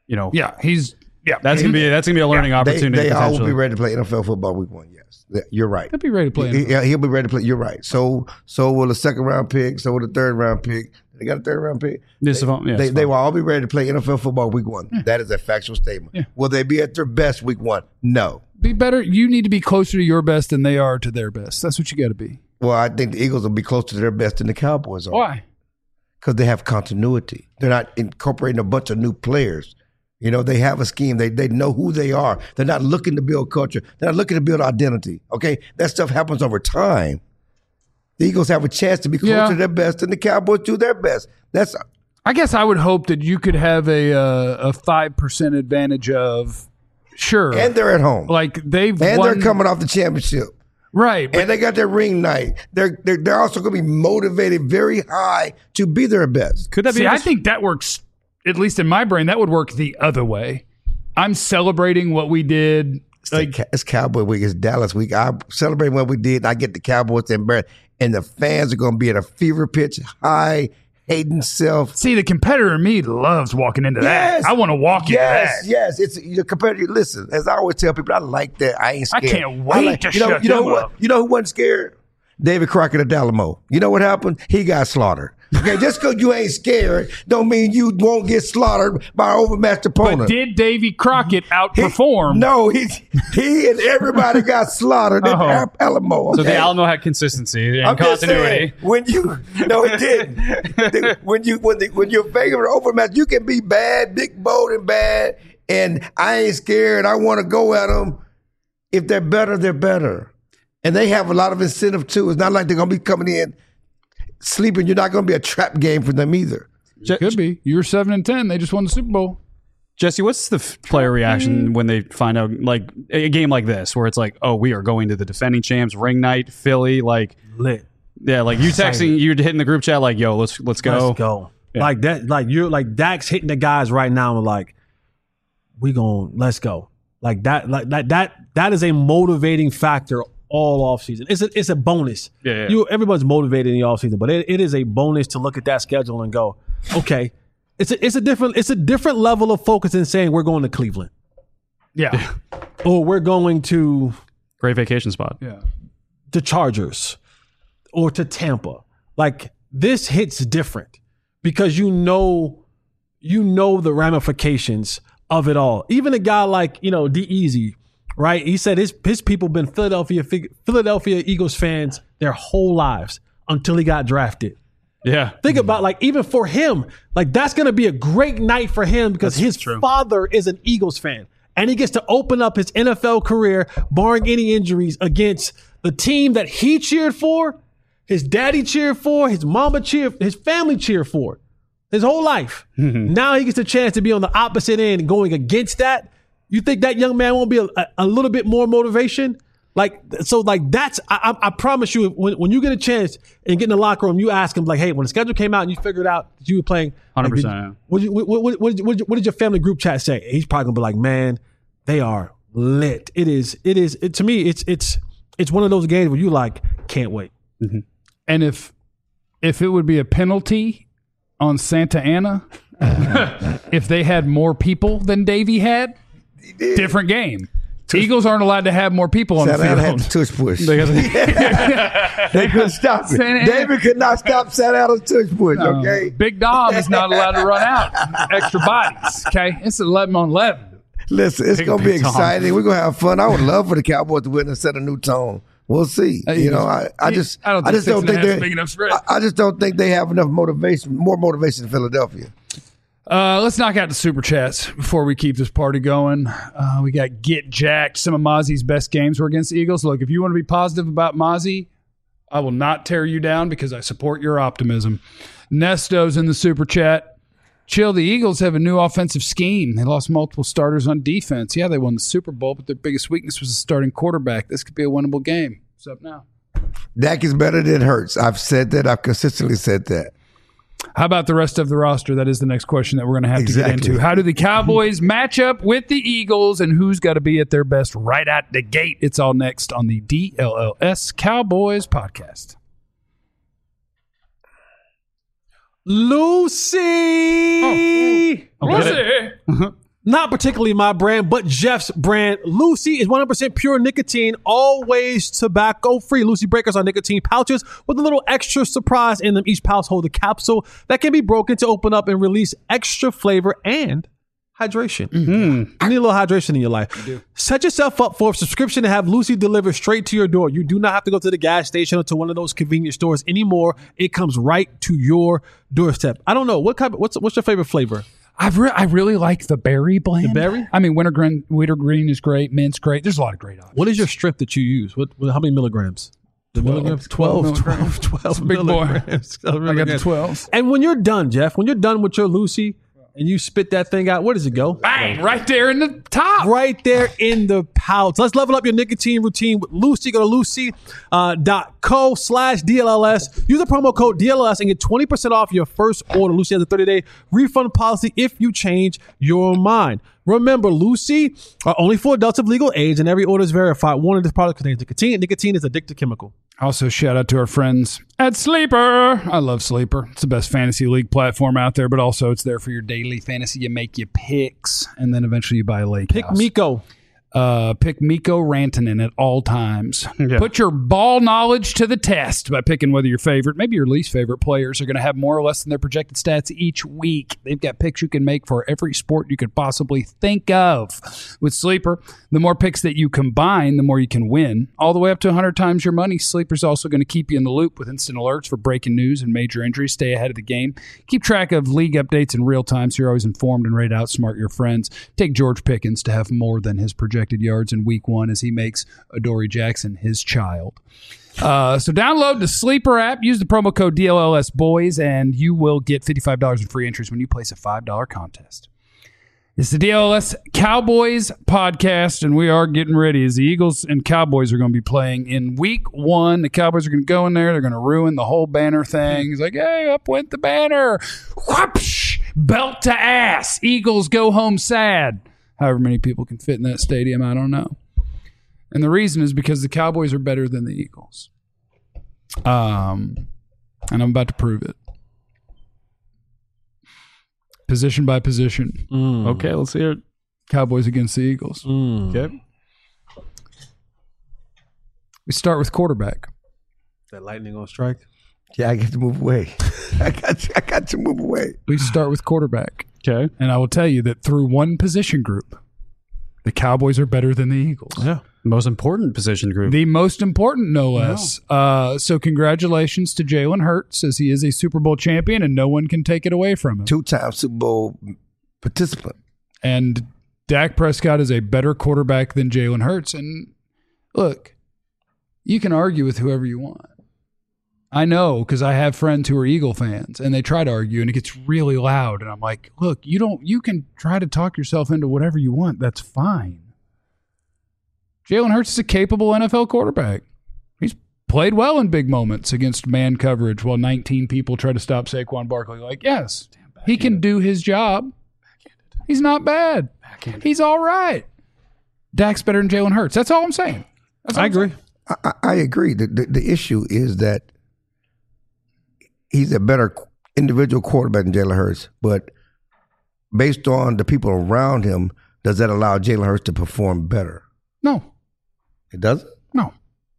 that's gonna be a learning opportunity. They all will be ready to play NFL football week 1. Yes, you're right. He'll be ready to play. He'll be ready to play. You're right. So will the 2nd round pick. So will the 3rd round pick. They got a 3rd round pick. They will all be ready to play NFL football week 1. Yeah. That is a factual statement. Yeah. Will they be at their best week 1? No. Be better. You need to be closer to your best than they are to their best. That's what you got to be. Well, I think the Eagles will be closer to their best than the Cowboys are. Why? Because they have continuity. They're not incorporating a bunch of new players. They have a scheme. They know who they are. They're not looking to build culture. They're not looking to build identity. Okay? That stuff happens over time. The Eagles have a chance to be closer to their best than the Cowboys do their best. I guess I would hope that you could have a 5% advantage of and they're at home. Like they're coming off the championship. Right. And they got their ring night. They're also going to be motivated very high to be their best. Could that be? I think that works, at least in my brain, that would work the other way. I'm celebrating what we did. It's Cowboy week. It's Dallas week. I'm celebrating what we did. And I get the Cowboys to embarrass. And the fans are going to be at a fever pitch, high, hating self. See, the competitor in me loves walking into that. I want to walk into that. Yes, it's your competitor. Listen, as I always tell people, I like that. I ain't scared. I can't wait to shut them up. You know who wasn't scared? David Crockett of Alamo. You know what happened? He got slaughtered. Okay, just because you ain't scared don't mean you won't get slaughtered by an overmatched opponent. But did Davy Crockett outperform? He and everybody got slaughtered at Alamo. Okay? So the Alamo had consistency and continuity. It didn't. when you're favorite overmatched, you can be bad, big, bold, and bad, and I ain't scared. I want to go at them. If they're better, they're better. And they have a lot of incentive too. It's not like they're going to be coming in sleeping. You're not going to be a trap game for them either. Could be. You were 7-10. They just won the Super Bowl. Jesse, what's the player reaction when they find out, like, a game like this where it's like, oh, we are going to the defending champs, ring night, Philly, like, Lit. yeah, like you texting, you hitting the group chat, like, yo, let's go. Let's go. Yeah. Like that. Like you're like Dak's hitting the guys right now. And like, let's go. Like that. Like that. That is a motivating factor all off season. It's a bonus. Yeah. Everyone's motivated in the off season, but it is a bonus to look at that schedule and go, okay. It's a different level of focus than saying we're going to Cleveland. Yeah. Or we're going to Great vacation spot. Yeah. the Chargers or to Tampa. Like this hits different because you know the ramifications of it all. Even a guy like, D-Eazy, right? He said his people been Philadelphia Eagles fans their whole lives until he got drafted. Yeah. Think about, like, even for him, like, that's going to be a great night for him because his father is an Eagles fan. And he gets to open up his NFL career, barring any injuries, against the team that he cheered for, his daddy cheered for, his mama cheered, his family cheered for, his whole life. Now he gets a chance to be on the opposite end going against that. You think that young man won't be a little bit more motivation? That's, I promise you, when you get a chance and get in the locker room, you ask him, like, hey, when the schedule came out and you figured out that you were playing, 100%. What did your family group chat say? He's probably gonna be like, man, they are lit. To me, it's one of those games where you like, can't wait. Mm-hmm. And if it would be a penalty on Santa Ana, if they had more people than Davey had, different game. Eagles aren't allowed to have more people on the Santa field. Ana had the tush push. They couldn't stop it. David could not stop Santa Ana's tush push, okay? Big Dom is not allowed to run out. Extra bodies, okay? It's 11-on-11. Listen, it's going to be exciting. We're going to have fun. I would love for the Cowboys to win and set a new tone. We'll see. I just don't think they're big enough spread. I just don't think they have enough motivation, more motivation in Philadelphia. Let's knock out the super chats before we keep this party going. We got Get Jacked. Some of Mozzie's best games were against the Eagles. Look, if you want to be positive about Mozzie, I will not tear you down because I support your optimism. Nesto's in the super chat. Chill, the Eagles have a new offensive scheme. They lost multiple starters on defense. Yeah, they won the Super Bowl, but their biggest weakness was the starting quarterback. This could be a winnable game. What's up now? Dak is better than Hurts. I've said that. I've consistently said that. How about the rest of the roster? That is the next question that we're going to have to get into. How do the Cowboys match up with the Eagles, and who's got to be at their best right out the gate? It's all next on the DLLS Cowboys podcast. Lucy! Lucy! Not particularly my brand, but Jeff's brand. Lucy is 100% pure nicotine, always tobacco-free. Lucy breakers are nicotine pouches with a little extra surprise in them. Each pouch holds a capsule that can be broken to open up and release extra flavor and hydration. You need a little hydration in your life. Set yourself up for a subscription to have Lucy delivered straight to your door. You do not have to go to the gas station or to one of those convenience stores anymore. It comes right to your doorstep. I don't know. What's your favorite flavor? I really like the berry blend. The berry? I mean, wintergreen is great. Mint's great. There's a lot of great options. What is your strip that you use? How many milligrams? The milligrams? 12 Big boy. milligrams. I got the 12. And when you're done, Jeff, when you're done with your Lucy and you spit that thing out, where does it go? Bang! Right there in the top. Right there in the pouch. Let's level up your nicotine routine with Lucy. Go to lucy.co/DLLS. Use the promo code DLLS and get 20% off your first order. Lucy has a 30-day refund policy if you change your mind. Remember, Lucy are only for adults of legal age, and every order is verified. Warning: this product contains nicotine. Nicotine is an addictive chemical. Also, shout out to our friends at Sleeper. I love Sleeper. It's the best fantasy league platform out there, but also it's there for your daily fantasy. You make your picks, and then eventually you buy a lake Pick house. Miko. Pick Mikko Rantanen at all times. Yeah. Put your ball knowledge to the test by picking whether your favorite, maybe your least favorite players are going to have more or less than their projected stats each week. They've got picks you can make for every sport you could possibly think of. With Sleeper, the more picks that you combine, the more you can win. All the way up to 100 times your money. Sleeper's also going to keep you in the loop with instant alerts for breaking news and major injuries. Stay ahead of the game. Keep track of league updates in real time so you're always informed and ready to outsmart your friends. Take George Pickens to have more than his projected projected yards in week 1 as he makes Adoree Jackson his child. So download the Sleeper app, use the promo code DLLS Boys, and you will get $55 in free entries when you place a $5 contest. It's the DLS Cowboys podcast, and we are getting ready as the Eagles and Cowboys are going to be playing in week 1. The Cowboys are going to go in there. They're going to ruin the whole banner thing. It's like, hey, up went the banner. Whoopsh! Belt to ass. Eagles go home sad. However many people can fit in that stadium, I don't know. And the reason is because the Cowboys are better than the Eagles. And I'm about to prove it. Position by position. Okay, let's hear it. Cowboys against the Eagles. Okay. We start with quarterback. That lightning on strike. Yeah, I got to move away. I got to move away. We start with quarterback. Okay. And I will tell you that through one position group, the Cowboys are better than the Eagles. Yeah. Most important position group. The most important, no less. So congratulations to Jalen Hurts, as he is a Super Bowl champion, and no one can take it away from him. 2-time Super Bowl participant. And Dak Prescott is a better quarterback than Jalen Hurts. And look, you can argue with whoever you want. I know, because I have friends who are Eagle fans, and they try to argue, and it gets really loud. And I'm like, look, you can try to talk yourself into whatever you want. That's fine. Jalen Hurts is a capable NFL quarterback. He's played well in big moments against man coverage while 19 people try to stop Saquon Barkley. Like, yes, he can do his job. He's not bad. He's all right. Dak's better than Jalen Hurts. That's all I'm saying. I agree. I agree. The issue is that he's a better individual quarterback than Jalen Hurts, but based on the people around him, does that allow Jalen Hurts to perform better? No. It doesn't? No.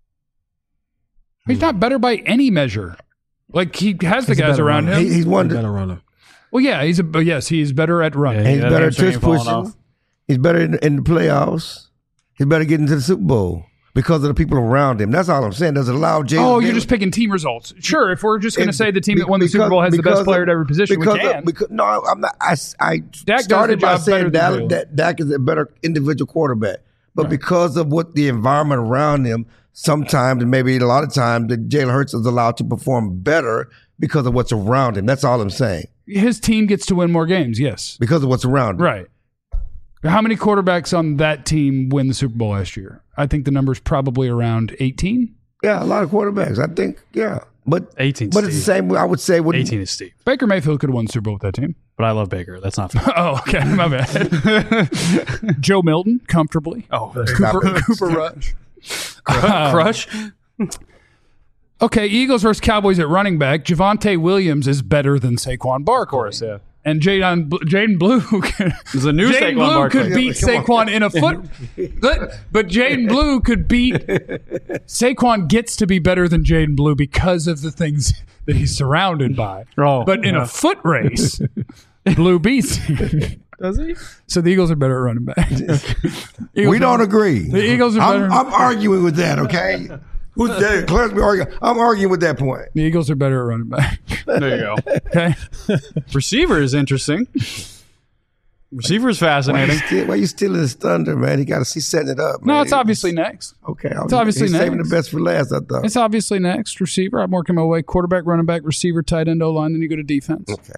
He's not better by any measure. Like, he has the guys around him. He's one Better runner. Well, yeah, he's better at running. He's that better at hamstring tush falling pushing. off. He's better in the playoffs. He's better getting to the Super Bowl because of the people around him. That's all I'm saying. Does it allow Jalen? Oh, you're just picking team results. Sure, if we're just going to say the team that won the Super Bowl has the best player at every position, we can. No, I'm not. I Dak started by does the job better saying than Jalen. that Dak is a better individual quarterback. But because of what the environment around him, sometimes and maybe a lot of times, that Jalen Hurts is allowed to perform better because of what's around him. That's all I'm saying. His team gets to win more games, yes. Because of what's around him. Right. How many quarterbacks on that team win the Super Bowl last year? I think the number's probably around 18. Yeah, a lot of quarterbacks. I think, yeah. But 18 But it's the same, I would say. 18 is Steve. Baker Mayfield could have won the Super Bowl with that team. But I love Baker. That's not fair. Oh, okay. My bad. Joe Milton, comfortably. Oh, Cooper Rush. Crush? Okay, Eagles versus Cowboys at running back. Javonte Williams is better than Saquon Barkley. Of course, yeah. And Jaden Blue There's a new Jaden Saquon Blue Barkley. could beat Saquon in a foot. But Jaden Blue could beat Saquon gets to be better than Jaden Blue because of the things that he's surrounded by. Oh, but in a foot race, Blue beats him. Does he? So the Eagles are better at running back. We don't agree. The Eagles are better. I'm arguing with that, okay? Who's that? Clarence, I'm arguing with that point. The Eagles are better at running back. There you go. Okay. Receiver is interesting. Receiver is fascinating. Why you stealing his thunder, man? He's setting it up. No, man. it's obviously next. Okay. It's obviously he's saving next. the best for last, I thought. It's obviously next. Receiver. I'm working my way. Quarterback, running back, receiver, tight end, O-line. Then you go to defense. Okay.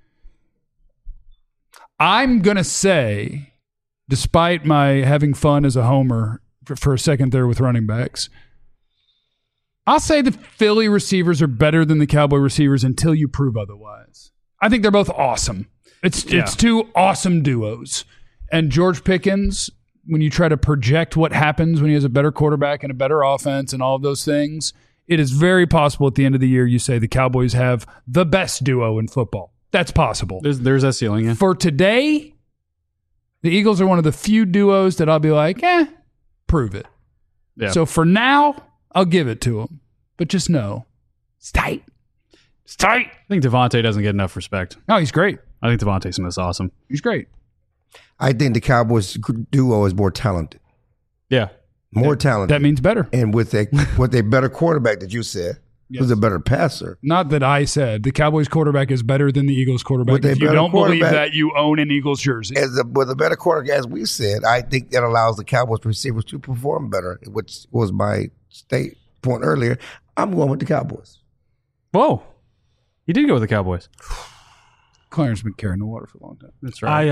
I'm going to say, despite my having fun as a homer for a second there with running backs, I'll say the Philly receivers are better than the Cowboy receivers until you prove otherwise. I think they're both awesome. It's two awesome duos. And George Pickens, when you try to project what happens when he has a better quarterback and a better offense and all of those things, it is very possible at the end of the year you say the Cowboys have the best duo in football. That's possible. There's that ceiling, yeah. For today, the Eagles are one of the few duos that I'll be like, prove it. Yeah. So for now, I'll give it to them. But just know, it's tight. It's tight. I think Devontae doesn't get enough respect. No, he's great. I think Devontae Smith's awesome. He's great. I think the Cowboys duo is more talented. Yeah. More talented. That means better. And with a better quarterback that you said. who's a better passer. Not that I said the Cowboys quarterback is better than the Eagles quarterback. With a If you better don't believe quarterback- that, you own an Eagles jersey. With a better quarterback, as we said, I think that allows the Cowboys receivers to perform better, which was my state point earlier. I'm going with the Cowboys. Whoa. You did go with the Cowboys. Clarence been carrying the water for a long time. That's right.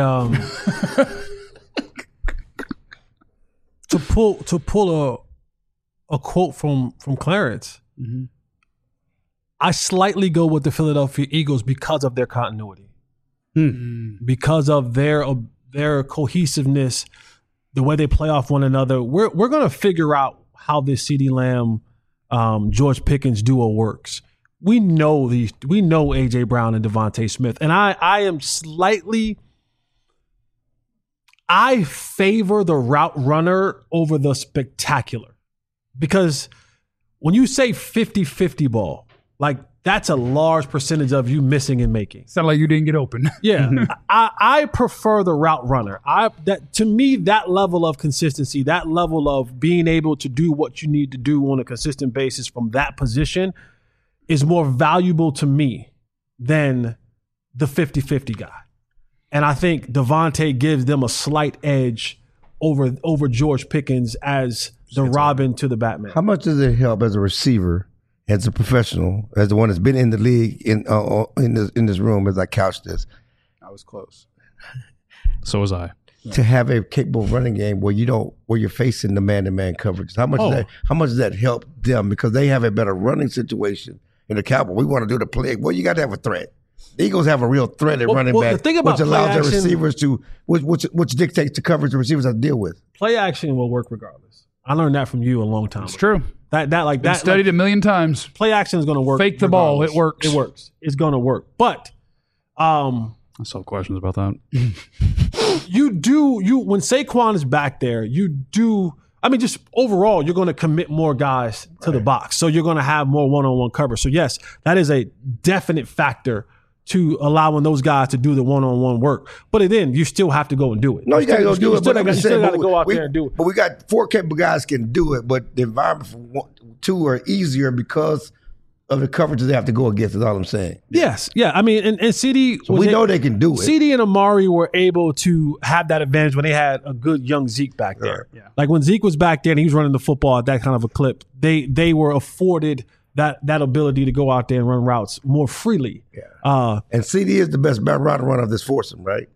To pull a quote from Clarence, I slightly go with the Philadelphia Eagles because of their continuity, because of their cohesiveness, the way they play off one another. We're going to figure out how this CeeDee Lamb, George Pickens duo works. We know AJ Brown and Devontae Smith, and I favor the route runner over the spectacular, because when you say 50-50 ball, like that's a large percentage of you missing and making. Sound like you didn't get open. Yeah, I prefer the route runner. To me, that level of consistency, that level of being able to do what you need to do on a consistent basis from that position is more valuable to me than the 50-50 guy. And I think Devontae gives them a slight edge over George Pickens as the Robin to the Batman. How much does it help as a receiver, as a professional, as the one that's been in the league in this room as I couch this, I was close. So was I. to have a capable running game where you're facing the man-to-man coverage? How much does that help them, because they have a better running situation in the Cowboys? We want to do the play. Well, you got to have a threat. The Eagles have a real threat at running back, the thing about which allows play their action- receivers to, which dictates the coverage the receivers have to deal with. Play action will work regardless. I learned that from you a long time. It's true. That Studied a million times. play action is going to work. Fake the ball. regardless. It works. It works. It's going to work. But I still have questions about that. when Saquon is back there, just overall, you're going to commit more guys to the box. So you're going to have more one-on-one coverage. So yes, that is a definite factor to allowing those guys to do the one-on-one work. But then you still have to go and do it. No, you got to go do it. But I'm You just still saying, got to go out there and do it. But we got 4 capable guys can do it, but the environment for 2 are easier because of the coverages they have to go against, is all I'm saying. Yes. Yeah. I mean, and CD. So we know they can do it. CD and Amari were able to have that advantage when they had a good young Zeke back there. Yeah. Like when Zeke was back there and he was running the football at that kind of a clip, they were afforded that ability to go out there and run routes more freely. Yeah. And CD is the best route runner of this foursome, right?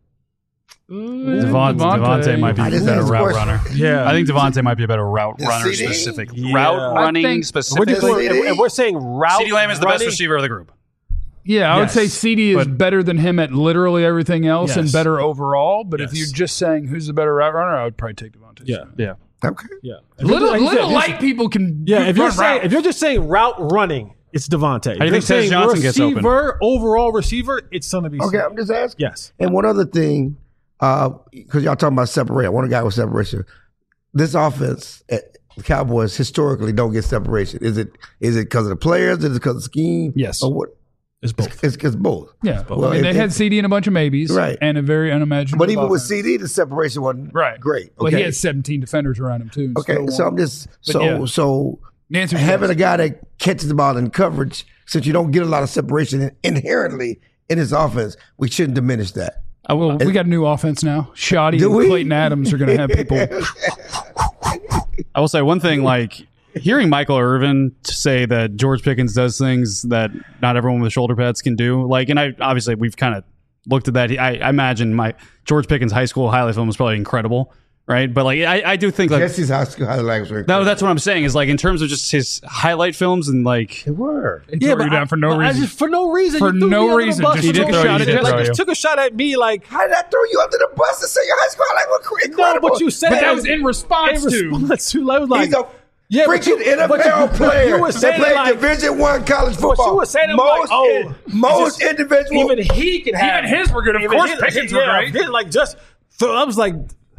Devontae might be I a just better asked a route question. runner. Yeah. I think Devontae might be a better route runner CD? specific. Yeah. Route I running think- We're specifically. just doing, CD? and we're saying route. CeeDee Lamb is the best running. receiver of the group. Yeah, I would Yes. say CD is But- better than him at literally everything else and Yes. better overall. But if Yes. you're just saying who's the better route runner, I would probably take Devontae. Yeah. Yeah. Okay. Yeah. Little Like you said, light people can. Yeah, if you're run routes. just saying route running, it's Devontae. How do you think Tez Johnson gets open? Overall receiver, it's going to be. Okay, CD. I'm just asking. Yes. And one other thing, because y'all talking about separation. I want a guy with separation. This offense, the Cowboys historically don't get separation. Is it because of the players? Is it because of the scheme? Yes. Or what? It's both. It's both. Yeah, Well, I mean, they had CD and a bunch of maybes, Right. and a very unimaginable. But even with offense. CD, the separation wasn't right, great. Well, Okay. he had 17 defenders around him too. and Okay, still so won. I'm just But yeah. so The answer is having yes. a guy that catches the ball in coverage, since you don't get a lot of separation inherently in his offense, we shouldn't diminish that. We got a new offense now. Shoddy Do and we? Clayton Adams are going to have people. I will say one thing, like hearing Michael Irvin say that George Pickens does things that not everyone with shoulder pads can do. Like, and obviously we've kind of looked at that. I imagine my George Pickens high school highlight film was probably incredible, right? But like, I do think like Jesse's high school highlights were no, that's what I'm saying is like in terms of just his highlight films and like They were. He threw you down for no reason. For no reason. For You threw no me under the reason. bus Just for he did no throw you, reason. he did Like, throw just you. took a shot at me. Like, How did I throw you under the bus and say your high school highlight was incredible? no, but you said But that was in response to. to. I was like, He's a yeah, but freaking you- but you- NFL player. you were They saying played like- Division I college football. you were saying, I'm like, oh, most just- individual. even he can have. Even his were good. Of even course his- Pickens were great. his, like just. So I was like,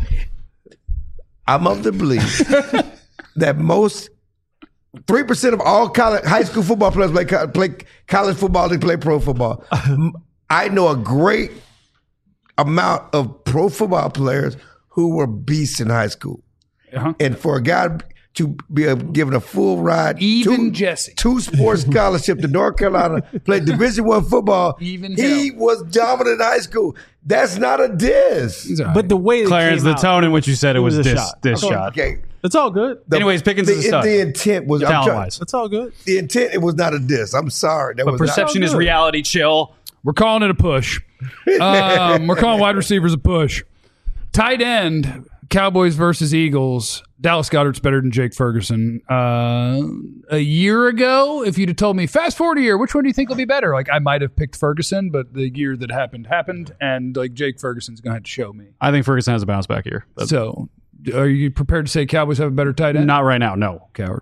I'm of the belief that most 3% of all high school football players play college football. They play pro football. I know a great amount of pro football players who were beasts in high school. Uh-huh. And for a guy, to be given a full ride. Even Jesse. 2 sports scholarship to North Carolina, played Division I football. Even he hell. was dominant in high school. That's not a diss. He's all right. But the way it Clarence, came the out, tone in which you said it was a this shot. shot. Okay. It's all good. Anyways, Pickens is a stud. The intent was Talent-wise. It's all good. The intent, it was not a diss. I'm sorry. That But was perception is good. reality. Chill. We're calling it a push. We're calling wide receivers a push. Tight end, Cowboys versus Eagles. Dallas Goedert's better than Jake Ferguson. A year ago, if you'd have told me, fast forward a year, which one do you think will be better? Like, I might have picked Ferguson, but the year that happened, and like Jake Ferguson's going to have to show me. I think Ferguson has a bounce back here. But So, are you prepared to say Cowboys have a better tight end? not right now. No. Coward.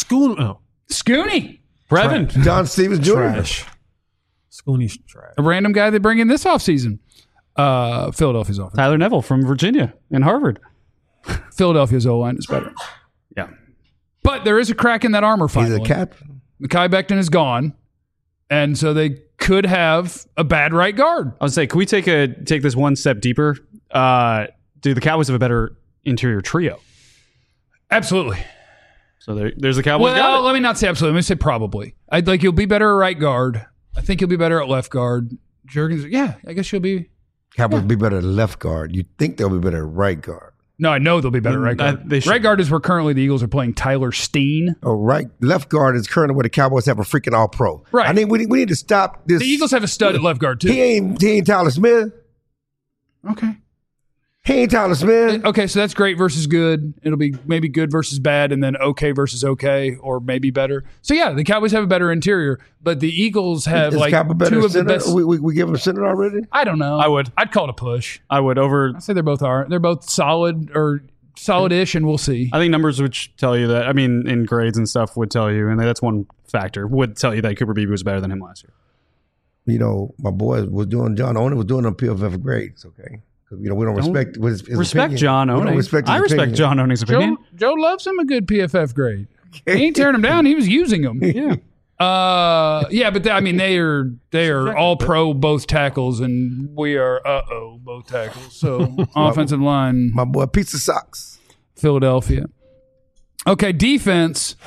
Scooney. Brevin. John Stevens Jr. Trash. Scooney's trash. A random guy they bring in this offseason. Philadelphia's offense. Tyler Neville from Virginia and Harvard. Philadelphia's O-line is better. Yeah. But there is a crack in that armor He's finally. a captain. Mekhi Becton is gone, and so they could have a bad right guard. I would say, can we take this one step deeper? Do the Cowboys have a better interior trio? Absolutely. So there's the Cowboys. Well, got it. let me not say absolutely. Let me say probably. I'd like you'll be better at right guard. I think you'll be better at left guard. Jurgens, yeah, I guess you'll be. Cowboys be better at left guard. You think they'll be better at right guard. No, I know they'll be better at right guard. they should. Right guard is where currently the Eagles are playing Tyler Steen. Oh, left guard is currently where the Cowboys have a freaking all pro. Right. I think we need to stop this. The Eagles have a stud at left guard too. He ain't Tyler Smith. Okay. He ain't Tyler Smith. Okay, so that's great versus good. It'll be maybe good versus bad, and then okay versus okay, or maybe better. So yeah, the Cowboys have a better interior, but the Eagles have Is like Cowboy better two at of the center? best. We give him a center already? I don't know. I would. I'd call it a push. I would over. I say they're both are. They're both solid or solid-ish, and we'll see. I think numbers would tell you that. I mean, in grades and stuff would tell you, and that's one factor. Would tell you that Cooper Beebe was better than him last year. You know, my boy was doing, John Owen was doing them PFF grades, okay? Because, you know, we don't respect his Respect opinion. John We don't Oning. respect his I respect opinion. John Oning's opinion. Joe loves him a good PFF grade. He ain't tearing him down. He was using them. Yeah. Yeah, but they are all pro both tackles, and we are both tackles. So offensive line, My boy, Pizza Socks. Philadelphia. Okay, defense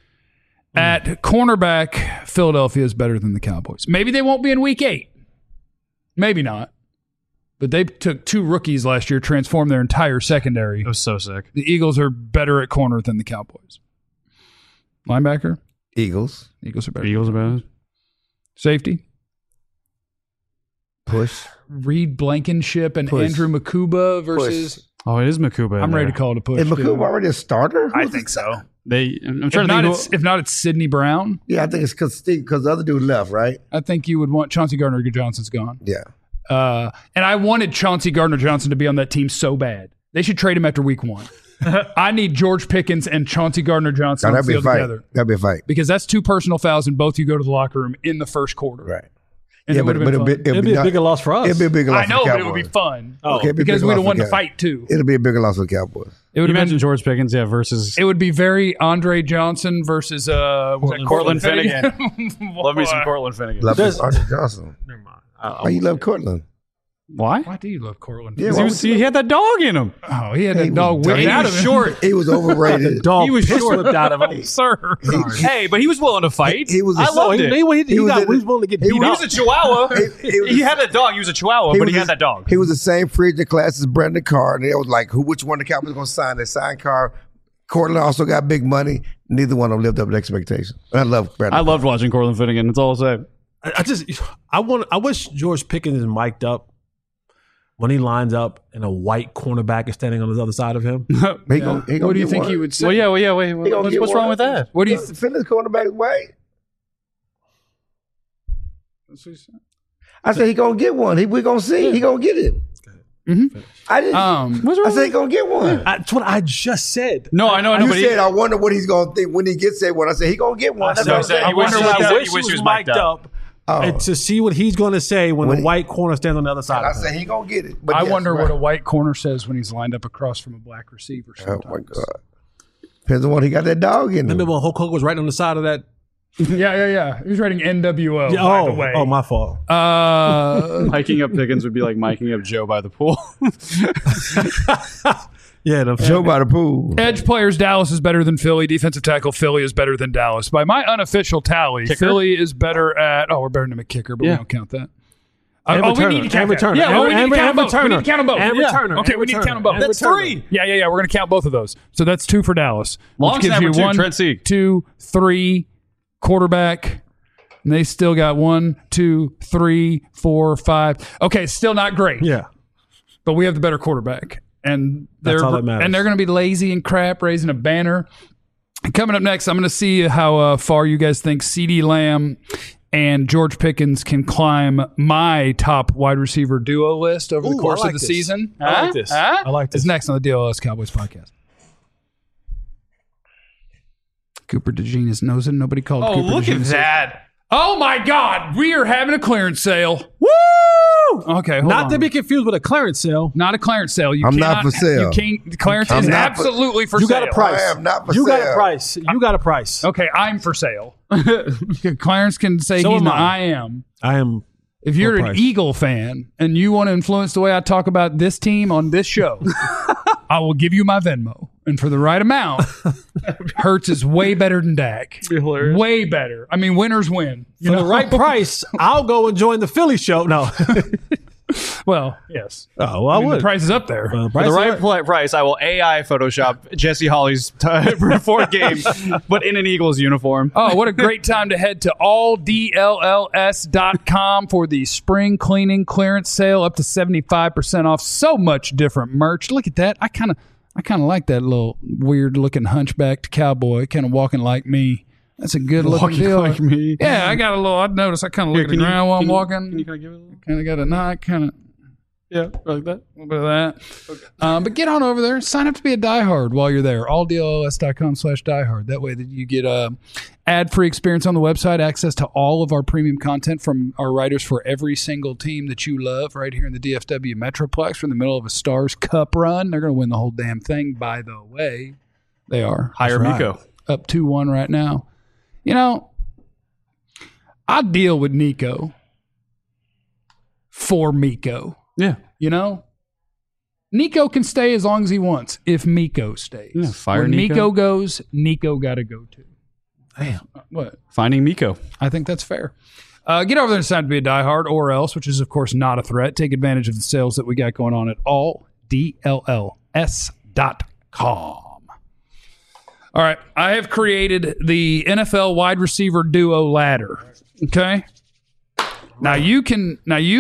at cornerback, Philadelphia is better than the Cowboys. Maybe they won't be in week 8. Maybe not. But they took 2 rookies last year, transformed their entire secondary. It was so sick. The Eagles are better at corner than the Cowboys. Linebacker, Eagles. Eagles are better. Eagles about it. Safety, Push. Reed Blankenship and Push. Andrew Makuba versus. Oh, it is Makuba. I'm ready to call it a push. Is too. McCool already a starter? I Who's think the- so. I'm If trying to not, think. if not, it's Sidney Brown. Yeah, I think it's because the other dude left, right? I think you would want Chauncey Gardner-Johnson's gone. Yeah. And I wanted Chauncey Gardner-Johnson to be on that team so bad. They should trade him after week 1. I need George Pickens and Chauncey Gardner-Johnson Now, on the that'd be a field fight. together. That'd be a fight. Because that's 2 personal fouls and both you go to the locker room in the first quarter. Right. And it would have been fun. It'd be a bigger loss for us. It'd be a bigger loss I know, for the but it would be Cowboys. fun. Okay, it'd be a Because bigger we'd have loss won for the fight too. It'll be a bigger loss for the Cowboys. It would You have mentioned been, George Pickens, yeah, versus it would be very Andre Johnson versus Cortland Finnegan. Love me some Boy. Cortland Finnegan. Love There's- Arthur Johnson. Never mind. Why you love Cortland? Why? Why do you love Cortland? Yeah, 'Cause why he, was, he had that dog in him. Oh, he had He that dog was whipped dumb. out He of was him. short. He was overrated. Dog He was piss short. whipped out of him. Sir. Hey, but he was willing to fight. He was a- I loved it. He was willing to get he beat was- He up. was a Chihuahua. He was- He had that dog. He was a Chihuahua, but he had that dog. He was the same free agent class as Brandon Carr. And it was like, which one the Cowboys going to sign? They signed Carr. Cortland also got big money. Neither one of them lived up to expectations. And I love Brandon. I loved watching Cortland Finnegan. That's all I'll say. I wish George Pickens is mic'd up when he lines up and a white cornerback is standing on the other side of him. He gonna What do you get think one. he would say? Wait. He gonna What's get wrong one. with that? What do you Finland's cornerback is white. I said he gonna get one. We gonna see. He gonna get it. I didn't. What's I wrong? said he gonna get one. That's what I just said. No, I know. You But said I wonder what he's gonna think when he gets that one. I said he gonna get one. That's what I'm said saying. he wishes I he wish was he was mic'd mic'd up. up Oh. and to see what he's going to say when When the he- white corner stands on the other side I of him. said he gonna get it. But I yes, wonder right. what a white corner says when he's lined up across from a black receiver. Oh Sometimes. my god! Depends on what he got that dog in. Remember Him. when Hulk Hogan was right on the side of that? Yeah. He was writing NWO. by the way. my fault. Miking up Pickens would be like miking up Joe by the pool. Yeah, Joe by the pool. Edge players, Dallas is better than Philly. Defensive tackle, Philly is better than Dallas. By my unofficial tally, Philly is better at. Oh, we're better than a kicker, but we don't count that. And we returner. need to count And that. returner. Yeah, we need And to count them both. We returner. need to count them both. And Yeah. returner. Okay, And we need to returner. count them both. And That's returner. 3. Yeah. We're going to count both of those. So that's 2 for Dallas. Long Which gives snapper, you too, 1, Trent Sieg. 2, 3, quarterback. And they still got 1, 2, 3, 4, 5. Okay, still not great. Yeah. But we have the better quarterback. And That's all that matters. And they're going to be lazy and crap, raising a banner. Coming up next, I'm going to see how far you guys think CeeDee Lamb and George Pickens can climb my top wide receiver duo list over the Ooh, course I like of the this. season. I like this. I like this. It's next on the DLS Cowboys podcast. Cooper DeJean is nosing. Nobody called Oh, Cooper look DeJean. at that. Oh, my God. We are having a clearance sale. Woo! Okay, hold Not on. to be confused with a clearance sale. Not a clearance sale. You I'm cannot, not for sale. You can't, clearance I'm is not for- absolutely for You sale. got a price. I am not for You got sale. a price. You got a price. Okay, I'm for sale. Clarence can say So he's am not. I. I am. I am. If you're Full an price. Eagle fan and you want to influence the way I talk about this team on this show, I will give you my Venmo. And for the right amount, Hurts is way better than Dak. Way better. I mean, winners win. You For know? the right price, I'll go and join the Philly show. No. Well, yes. Oh, well, I The would. price is up there. For the right price, I will AI Photoshop Jesse Holly's fourth game, but in an Eagles uniform. Oh, what a great time to head to alldlls.com for the spring cleaning clearance sale, up to 75% off. So much different merch. Look at that. I kind of like that little weird looking hunchbacked cowboy kind of walking like me. That's a good looking Walking deal. like me. Yeah, I got a little. I noticed I kind of look at the ground while I'm walking. Can you kind of give it a little? Kind of got a knot, kind of Yeah, like that. a little bit of that. But get on over there. Sign up to be a diehard while you're there. alldlls.com/diehard. That way that you get ad-free experience on the website, access to all of our premium content from our writers for every single team that you love right here in the DFW Metroplex. We're in the middle of a Stars Cup run. They're going to win the whole damn thing, by the way. They are. Hire That's Miko. Up 2-1 right now. You know, I deal with Nico for Miko. Yeah. You know, Nico can stay as long as he wants if Miko stays. Yeah, fire when Nico. Nico goes, Nico got to go too. Damn. What? Finding Miko. I think that's fair. Get over there and decide to be a diehard or else, which is, of course, not a threat. Take advantage of the sales that we got going on at alldlls.com. All right. I have created the NFL wide receiver duo ladder. Okay. Now you can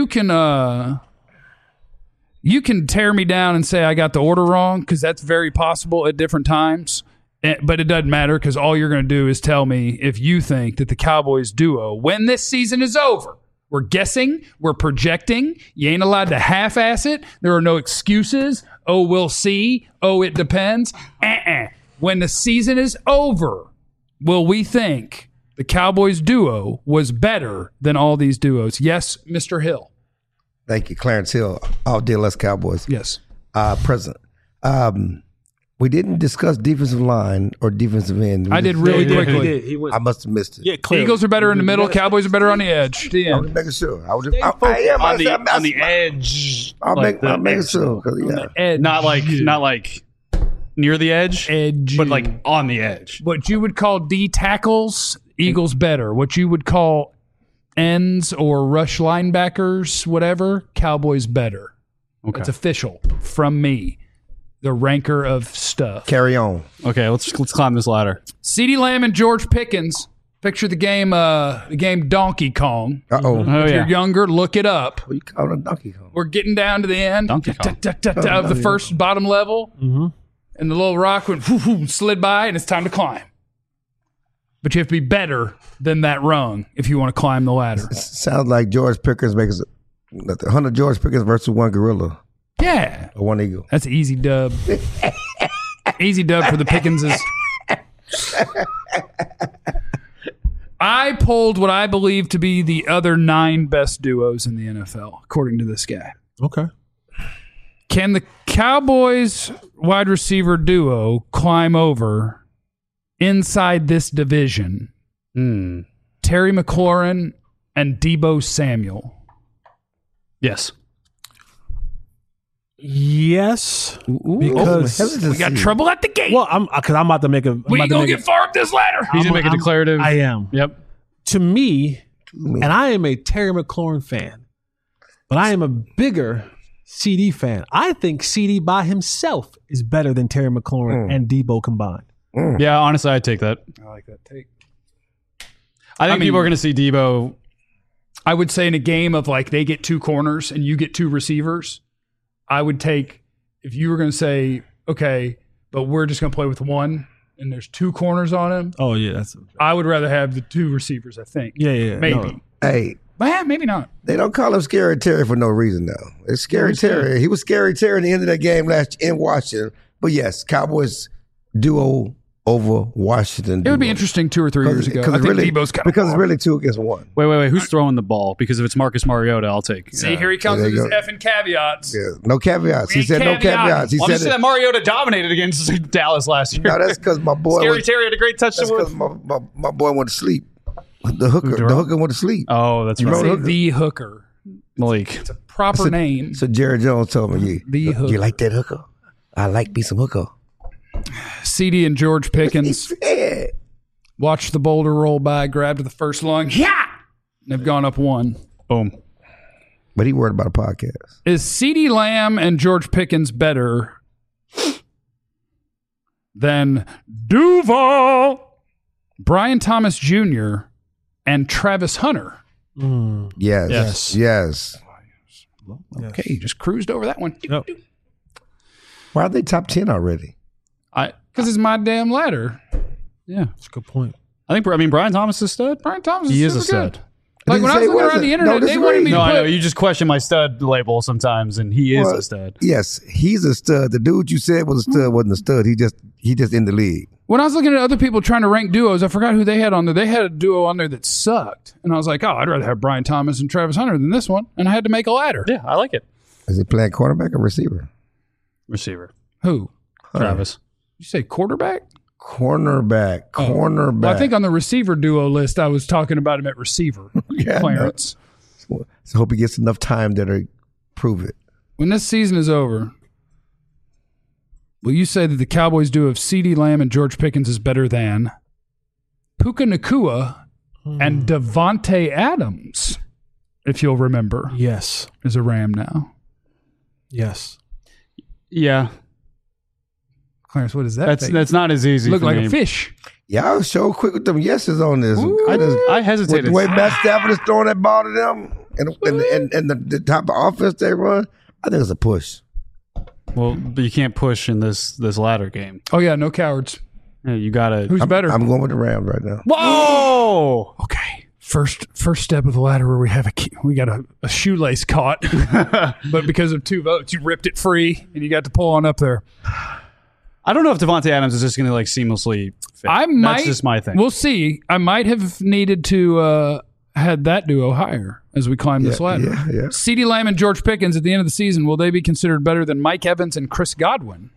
tear me down and say I got the order wrong, because that's very possible at different times. But it doesn't matter, because all you're going to do is tell me if you think that the Cowboys duo, when this season is over, we're guessing, we're projecting. You ain't allowed to half-ass it. There are no excuses. Oh, we'll see. Oh, it depends. When the season is over, will we think the Cowboys duo was better than all these duos? Yes, Mr. Hill. Thank you, Clarence Hill, all DLS Cowboys. Yes. President. We didn't discuss defensive line or defensive end. I did really He quickly. did. He went. I must have missed it. Yeah, clearly. Eagles are better in the middle. Cowboys are better on the edge. The I was end. just making sure. I am. On the edge. I'm like making sure. 'Cause, yeah. Edge. Not like near the edge, Edge. but like on the edge. What you would call D tackles, Eagles better. What you would call ends or rush linebackers, whatever, Cowboys better. Okay. It's official from me, the ranker of stuff. Carry on. Okay, let's climb this ladder. CeeDee Lamb and George Pickens. Picture the game Donkey Kong. Uh-oh. Oh If yeah. you're younger, look it up. What you call it a Donkey Kong? We're getting down to the end Donkey Kong. of the first bottom level, and the little rock went slid by, and it's time to climb. But you have to be better than that rung if you want to climb the ladder. Sounds like George Pickens makes 100 George Pickens versus one gorilla Yeah, or one eagle. that's an easy dub. Easy dub for the Pickenses. I pulled what I believe to be the other 9 best duos in the NFL, according to this guy. Okay. Can the Cowboys wide receiver duo climb over inside this division Terry McLaurin and Deebo Samuel? Yes. Yes, because hesitancy. We got trouble at the gate. well, I'm about to make a. we ain't gonna get far up this ladder. He's gonna make a declarative. I am. Yep. To me, and I am a Terry McLaurin fan, but I am a bigger CD fan. I think CD by himself is better than Terry McLaurin and Debo combined. Yeah, honestly, I'd take that. I like that take. I think mean- people are going to see Debo. I would say in a game of like they get two corners and you get two receivers, I would take, if you were going to say, okay, but we're just going to play with one and there's two corners on him, Oh yeah, that's I would rather have the two receivers, I think. yeah. Maybe. No. Hey, But maybe not. they don't call him Scary Terry for no reason, though. It's Scary Terry. He was Scary Terry at the end of that game last in Washington. But yes, Cowboys duo over Washington. It would be interesting 2 or 3 years ago. I think Debo's kind of because it's really 2 against 1. Wait. Who's throwing the ball? Because if it's Marcus Mariota, I'll take. See, here he comes There with you his go. effing caveats. Yeah, no caveats. He ain't said no caveating. caveats. He Well, I'm just said saying that Mariota dominated against Dallas last year. no. That's because my boy. Scary was, Terry had a great touch that's to because my boy went to sleep. The hooker went to sleep. Oh, that's You right. remember Say the hooker. Malik. It's a proper name. So Jerry Jones told me, The hooker. you like that hooker? I like me some hooker. CD and George Pickens Yeah. watched the boulder roll by, grabbed the first lung. Yeah! And they've gone up 1. Boom. But he worried about a podcast. Is CD Lamb and George Pickens better than Duval, Brian Thomas Jr., and Travis Hunter? Yes. Okay, you just cruised over that one. Yep. Why are they top 10 already? Because it's my damn ladder. Yeah. That's a good point. I mean, Brian Thomas is a stud. Brian Thomas He is is a super good. stud. Like when I was looking around the internet, they wanted me to No, I know. put... You just question my stud label sometimes, and he is Well, a stud. Yes, he's a stud. The dude you said was a stud wasn't a stud. He just in the league. When I was looking at other people trying to rank duos, I forgot who they had on there. They had a duo on there that sucked. And I was like, oh, I'd rather have Brian Thomas and Travis Hunter than this one. And I had to make a ladder. Yeah, I like it. Is he playing quarterback or receiver? Receiver. Who? Travis. You say quarterback? Cornerback. Well, I think on the receiver duo list, I was talking about him at receiver. Yeah, Clarence. So I hope he gets enough time there to prove it. When this season is over, will you say that the Cowboys duo of CeeDee Lamb and George Pickens is better than Puka Nacua and Devontae Adams, if you'll remember, Yes. is a Ram now? Yes. Yeah. Clarence, what is that? That's not as easy. Look for like me. a fish. Y'all show quick with them yeses on this. I With hesitated. the way Matt Stafford is throwing that ball to them and the type of offense they run, I think it's a push. Well, but you can't push in this ladder game. Oh yeah, no cowards. Yeah, you gotta. Who's better? I'm going with the Rams right now. Whoa! Okay. First step of the ladder where we got a shoelace caught, but because of 2 votes, you ripped it free and you got to pull on up there. I don't know if Devontae Adams is just going to like seamlessly fit. That's just my thing. We'll see. I might have needed to had that duo higher as we climb this ladder. Yeah. CeeDee Lamb and George Pickens at the end of the season, will they be considered better than Mike Evans and Chris Godwin?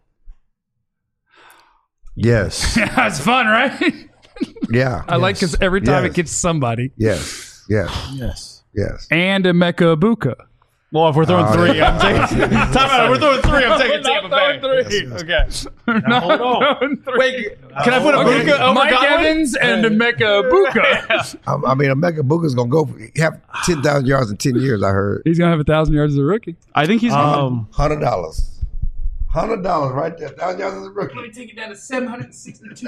Yes. That's fun, right? Yeah. I like because every time Yes. it gets somebody. Yes. Yes. And Emeka Ibuka. well, if we're throwing 3, I'm taking. Time out. If we're throwing 3, I'm taking Tampa Bay. 3. Okay. Hold on. Wait, can I put Ibuka over Mike Godwin? Evans and Emeka Ibuka. I mean, Emeka Booker's going to have 10,000 yards in 10 years, I heard. He's going to have 1,000 yards as a rookie. I think he's. $100. $100 right there. 1,000 yards as a rookie. Take it down to 762.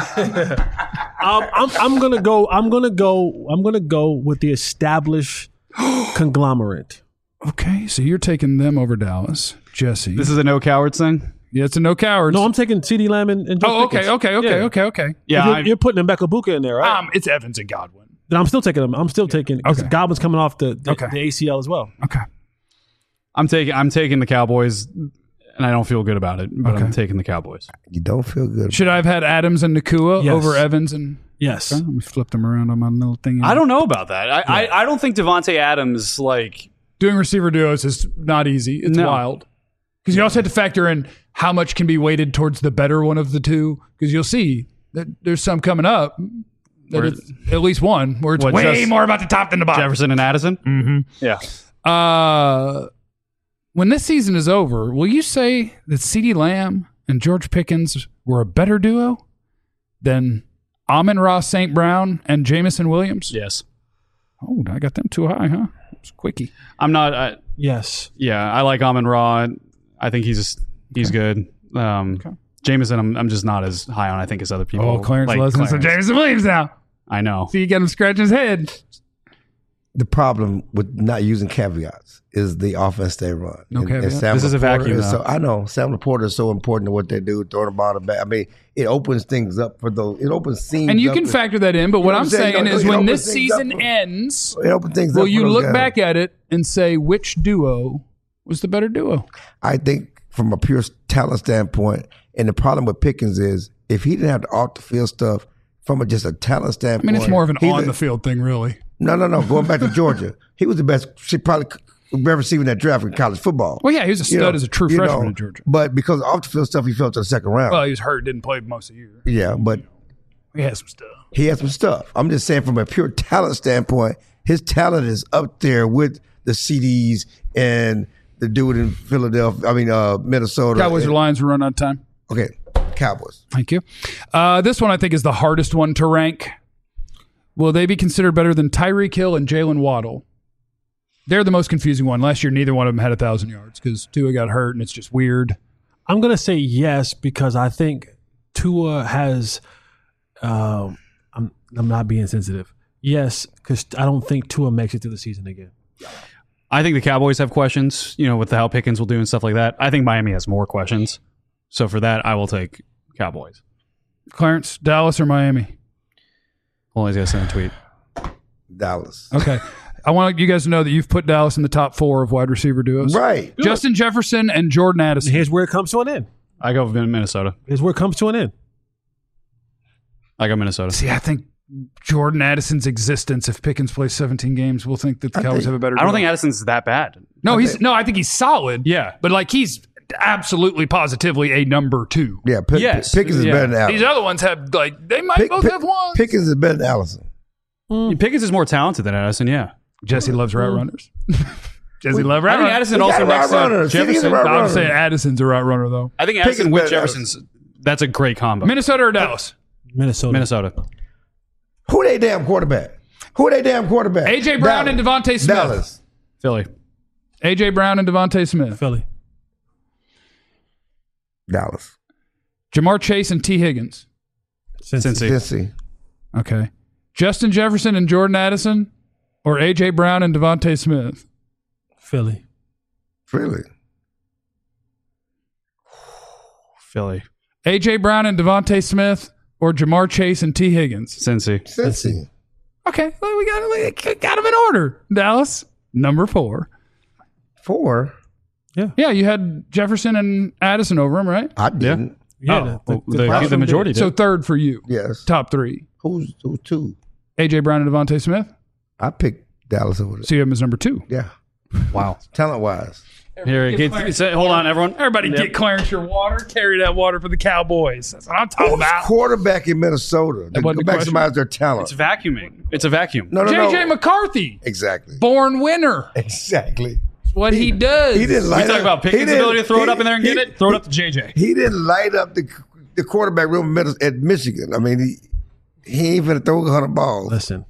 I'm gonna go with the established conglomerate. Okay, so you're taking them over Dallas, Jesse. this is a no cowards thing. Yeah, it's a no cowards. No, I'm taking CeeDee Lamb and George Oh, okay, Pickens. okay. Yeah, You're putting Emeka Ibuka in there, right? It's Evans and Godwin. Then I'm still taking him. I'm still taking because Okay. Godwin's coming off the Okay. ACL as well. Okay. I'm taking the Cowboys, and I don't feel good about it, but I'm Okay. taking the Cowboys. You don't feel good. Should I have had Adams and Nakua Yes. over Evans and? Yes. Okay, let me flip them around on my little thing. I don't know about that. I don't think Devontae Adams like. Doing receiver duos is not easy. It's No. wild because you also have to factor in how much can be weighted towards the better one of the two. Because you'll see that there's some coming up. That Where- it's at least one where it's What, way just more about the top than the bottom. Jefferson and Addison. Mm-hmm. Yeah. when this season is over, will you say that CeeDee Lamb and George Pickens were a better duo than Amon-Ra St. Brown and Jamison Williams? Yes. Oh, I got them too high, huh? It's quickie. I'm not. Yes. Yeah, I like Amon-Ra. I think he's good. Jameson, I'm just not as high on, I think, as other people. Oh, Clarence like loves him some Clarence. Jamison Williams now. I know. See, you get him scratching his head. The problem with not using caveats is the offense they run. No caveats. Sam This is a Laporta vacuum, is though. I know Sam Laporta is so important to what they do, throwing the ball back. I mean, it opens things up for those. It opens seams. And you up can to- factor that in, but what know I'm what I'm saying? saying It is when opens this things up season for- ends, It opens things will up. you for those look guys. back at it and say which duo was the better duo? I think from a pure talent standpoint, and the problem with Pickens is if he didn't have the off the field stuff from just a talent I standpoint. mean, it's more of an he's on-the-field thing, really. No. Going back to Georgia, he was the best. She probably best receiver in that draft in college football. Well, yeah, he was a stud You know, as a true you freshman know, in Georgia. But because of off the field stuff, he fell to the second round. Well, he was hurt, didn't play most of the year. Yeah, but He had some stuff. he has some stuff. I'm just saying from a pure talent standpoint, his talent is up there with the CDs and the dude in Philadelphia. I mean, Minnesota. Cowboys or Lions will run out of time. Okay, Cowboys. Thank you. This one I think is the hardest one to rank. Will they be considered better than Tyreek Hill and Jalen Waddle? They're the most confusing one. Last year, neither one of them had 1,000 yards because Tua got hurt, and it's just weird. I'm going to say yes because I think Tua has I'm not being sensitive. Yes, because I don't think Tua makes it through the season again. I think the Cowboys have questions, with how Pickens will do and stuff like that. I think Miami has more questions. So for that, I will take Cowboys. Clarence, Dallas or Miami? Well, he's got to send a tweet. Dallas. Okay. I want you guys to know that you've put Dallas in the top 4 of wide receiver duos. Right. Justin Jefferson and Jordan Addison. Here's where it comes to an end. I go with Minnesota. Here's where it comes to an end. I got Minnesota. See, I think Jordan Addison's existence, if Pickens plays 17 games, we'll think that the Cowboys have a better I don't duo. think Addison's that bad. No, I think he's solid. Yeah. But he's absolutely positively a number 2. Yeah, Yes. Pickens is Yeah. better than Allison. These other ones have they might both have one. Pickens is better than Allison. Pickens is more talented than Addison, yeah. Jesse loves route runners. Jesse loves route I think runners. Addison We also got next route to runners. Jefferson. City's a route I would say runner. Addison's a route runner though. I think Pickens Addison with better than Jefferson's, that's a great combo. Minnesota or Dallas? Minnesota. Who they damn quarterback? AJ Brown and Devontae Smith. Dallas. Philly. AJ Brown and Devontae Smith. Philly. Dallas. Jamar Chase and T. Higgins. Cincy. Cincy. Okay. Justin Jefferson and Jordan Addison, or AJ Brown and Devontae Smith. Philly. Really? Philly. AJ Brown and Devontae Smith, or Jamar Chase and T. Higgins. Cincy. Cincy. Okay, well, we got them in order. Dallas, number 4. 4? Yeah, you had Jefferson and Addison over him, right? I didn't. Yeah. The majority did. So 3rd for you. Yes. Top 3. Who's 2? AJ Brown and Devontae Smith. I picked Dallas over there. So you have him as number 2. Yeah. Wow. Talent wise. Here, hold on, everyone. Everybody get Clarence your water. Carry that water for the Cowboys. That's what I'm talking Who's about. quarterback in Minnesota? That wasn't Go the back question. somebody's their talent. It's vacuuming. It's a vacuum. No. JJ McCarthy, Exactly. born winner. Exactly. That's what he does. He didn't We light talk up. about he Pickens' didn't- ability to throw it up in there and he- get it. Throw it up to JJ. He didn't light up the quarterback room at Michigan. I mean, he ain't finna throw 100 balls. Listen.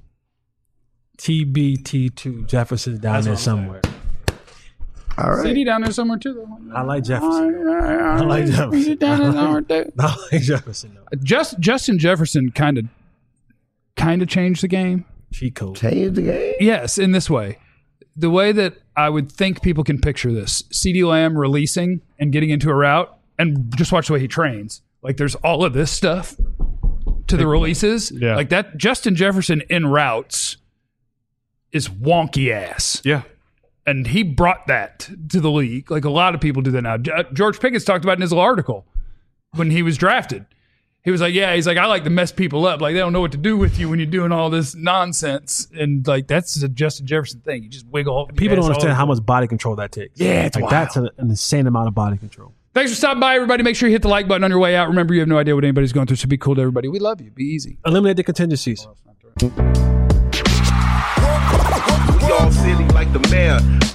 TBT2 Jefferson's down there somewhere. All right. CD down there somewhere too, though. I like Jefferson. I like Jefferson. He's down there somewhere too. I like Jefferson though. Justin Jefferson kind of changed the game. Cheat code. Change the game. Yes, in this way. The way that I would think people can picture this. CeeDee Lamb releasing and getting into a route, and just watch the way he trains. There's all of this stuff to the releases. Yeah. Like that Justin Jefferson in routes is wonky ass. Yeah. And he brought that to the league. Like a lot of people do that now. George Pickens talked about it in his little article when he was drafted. He was like, I like to mess people up. Like, they don't know what to do with you when you're doing all this nonsense. And, that's a Justin Jefferson thing. You just wiggle. People don't understand how much body control that takes. Yeah, it's wild. That's an insane amount of body control. Thanks for stopping by, everybody. Make sure you hit the like button on your way out. Remember, you have no idea what anybody's going through, so be cool to everybody. We love you. Be easy. Eliminate the contingencies. We all silly like the mayor.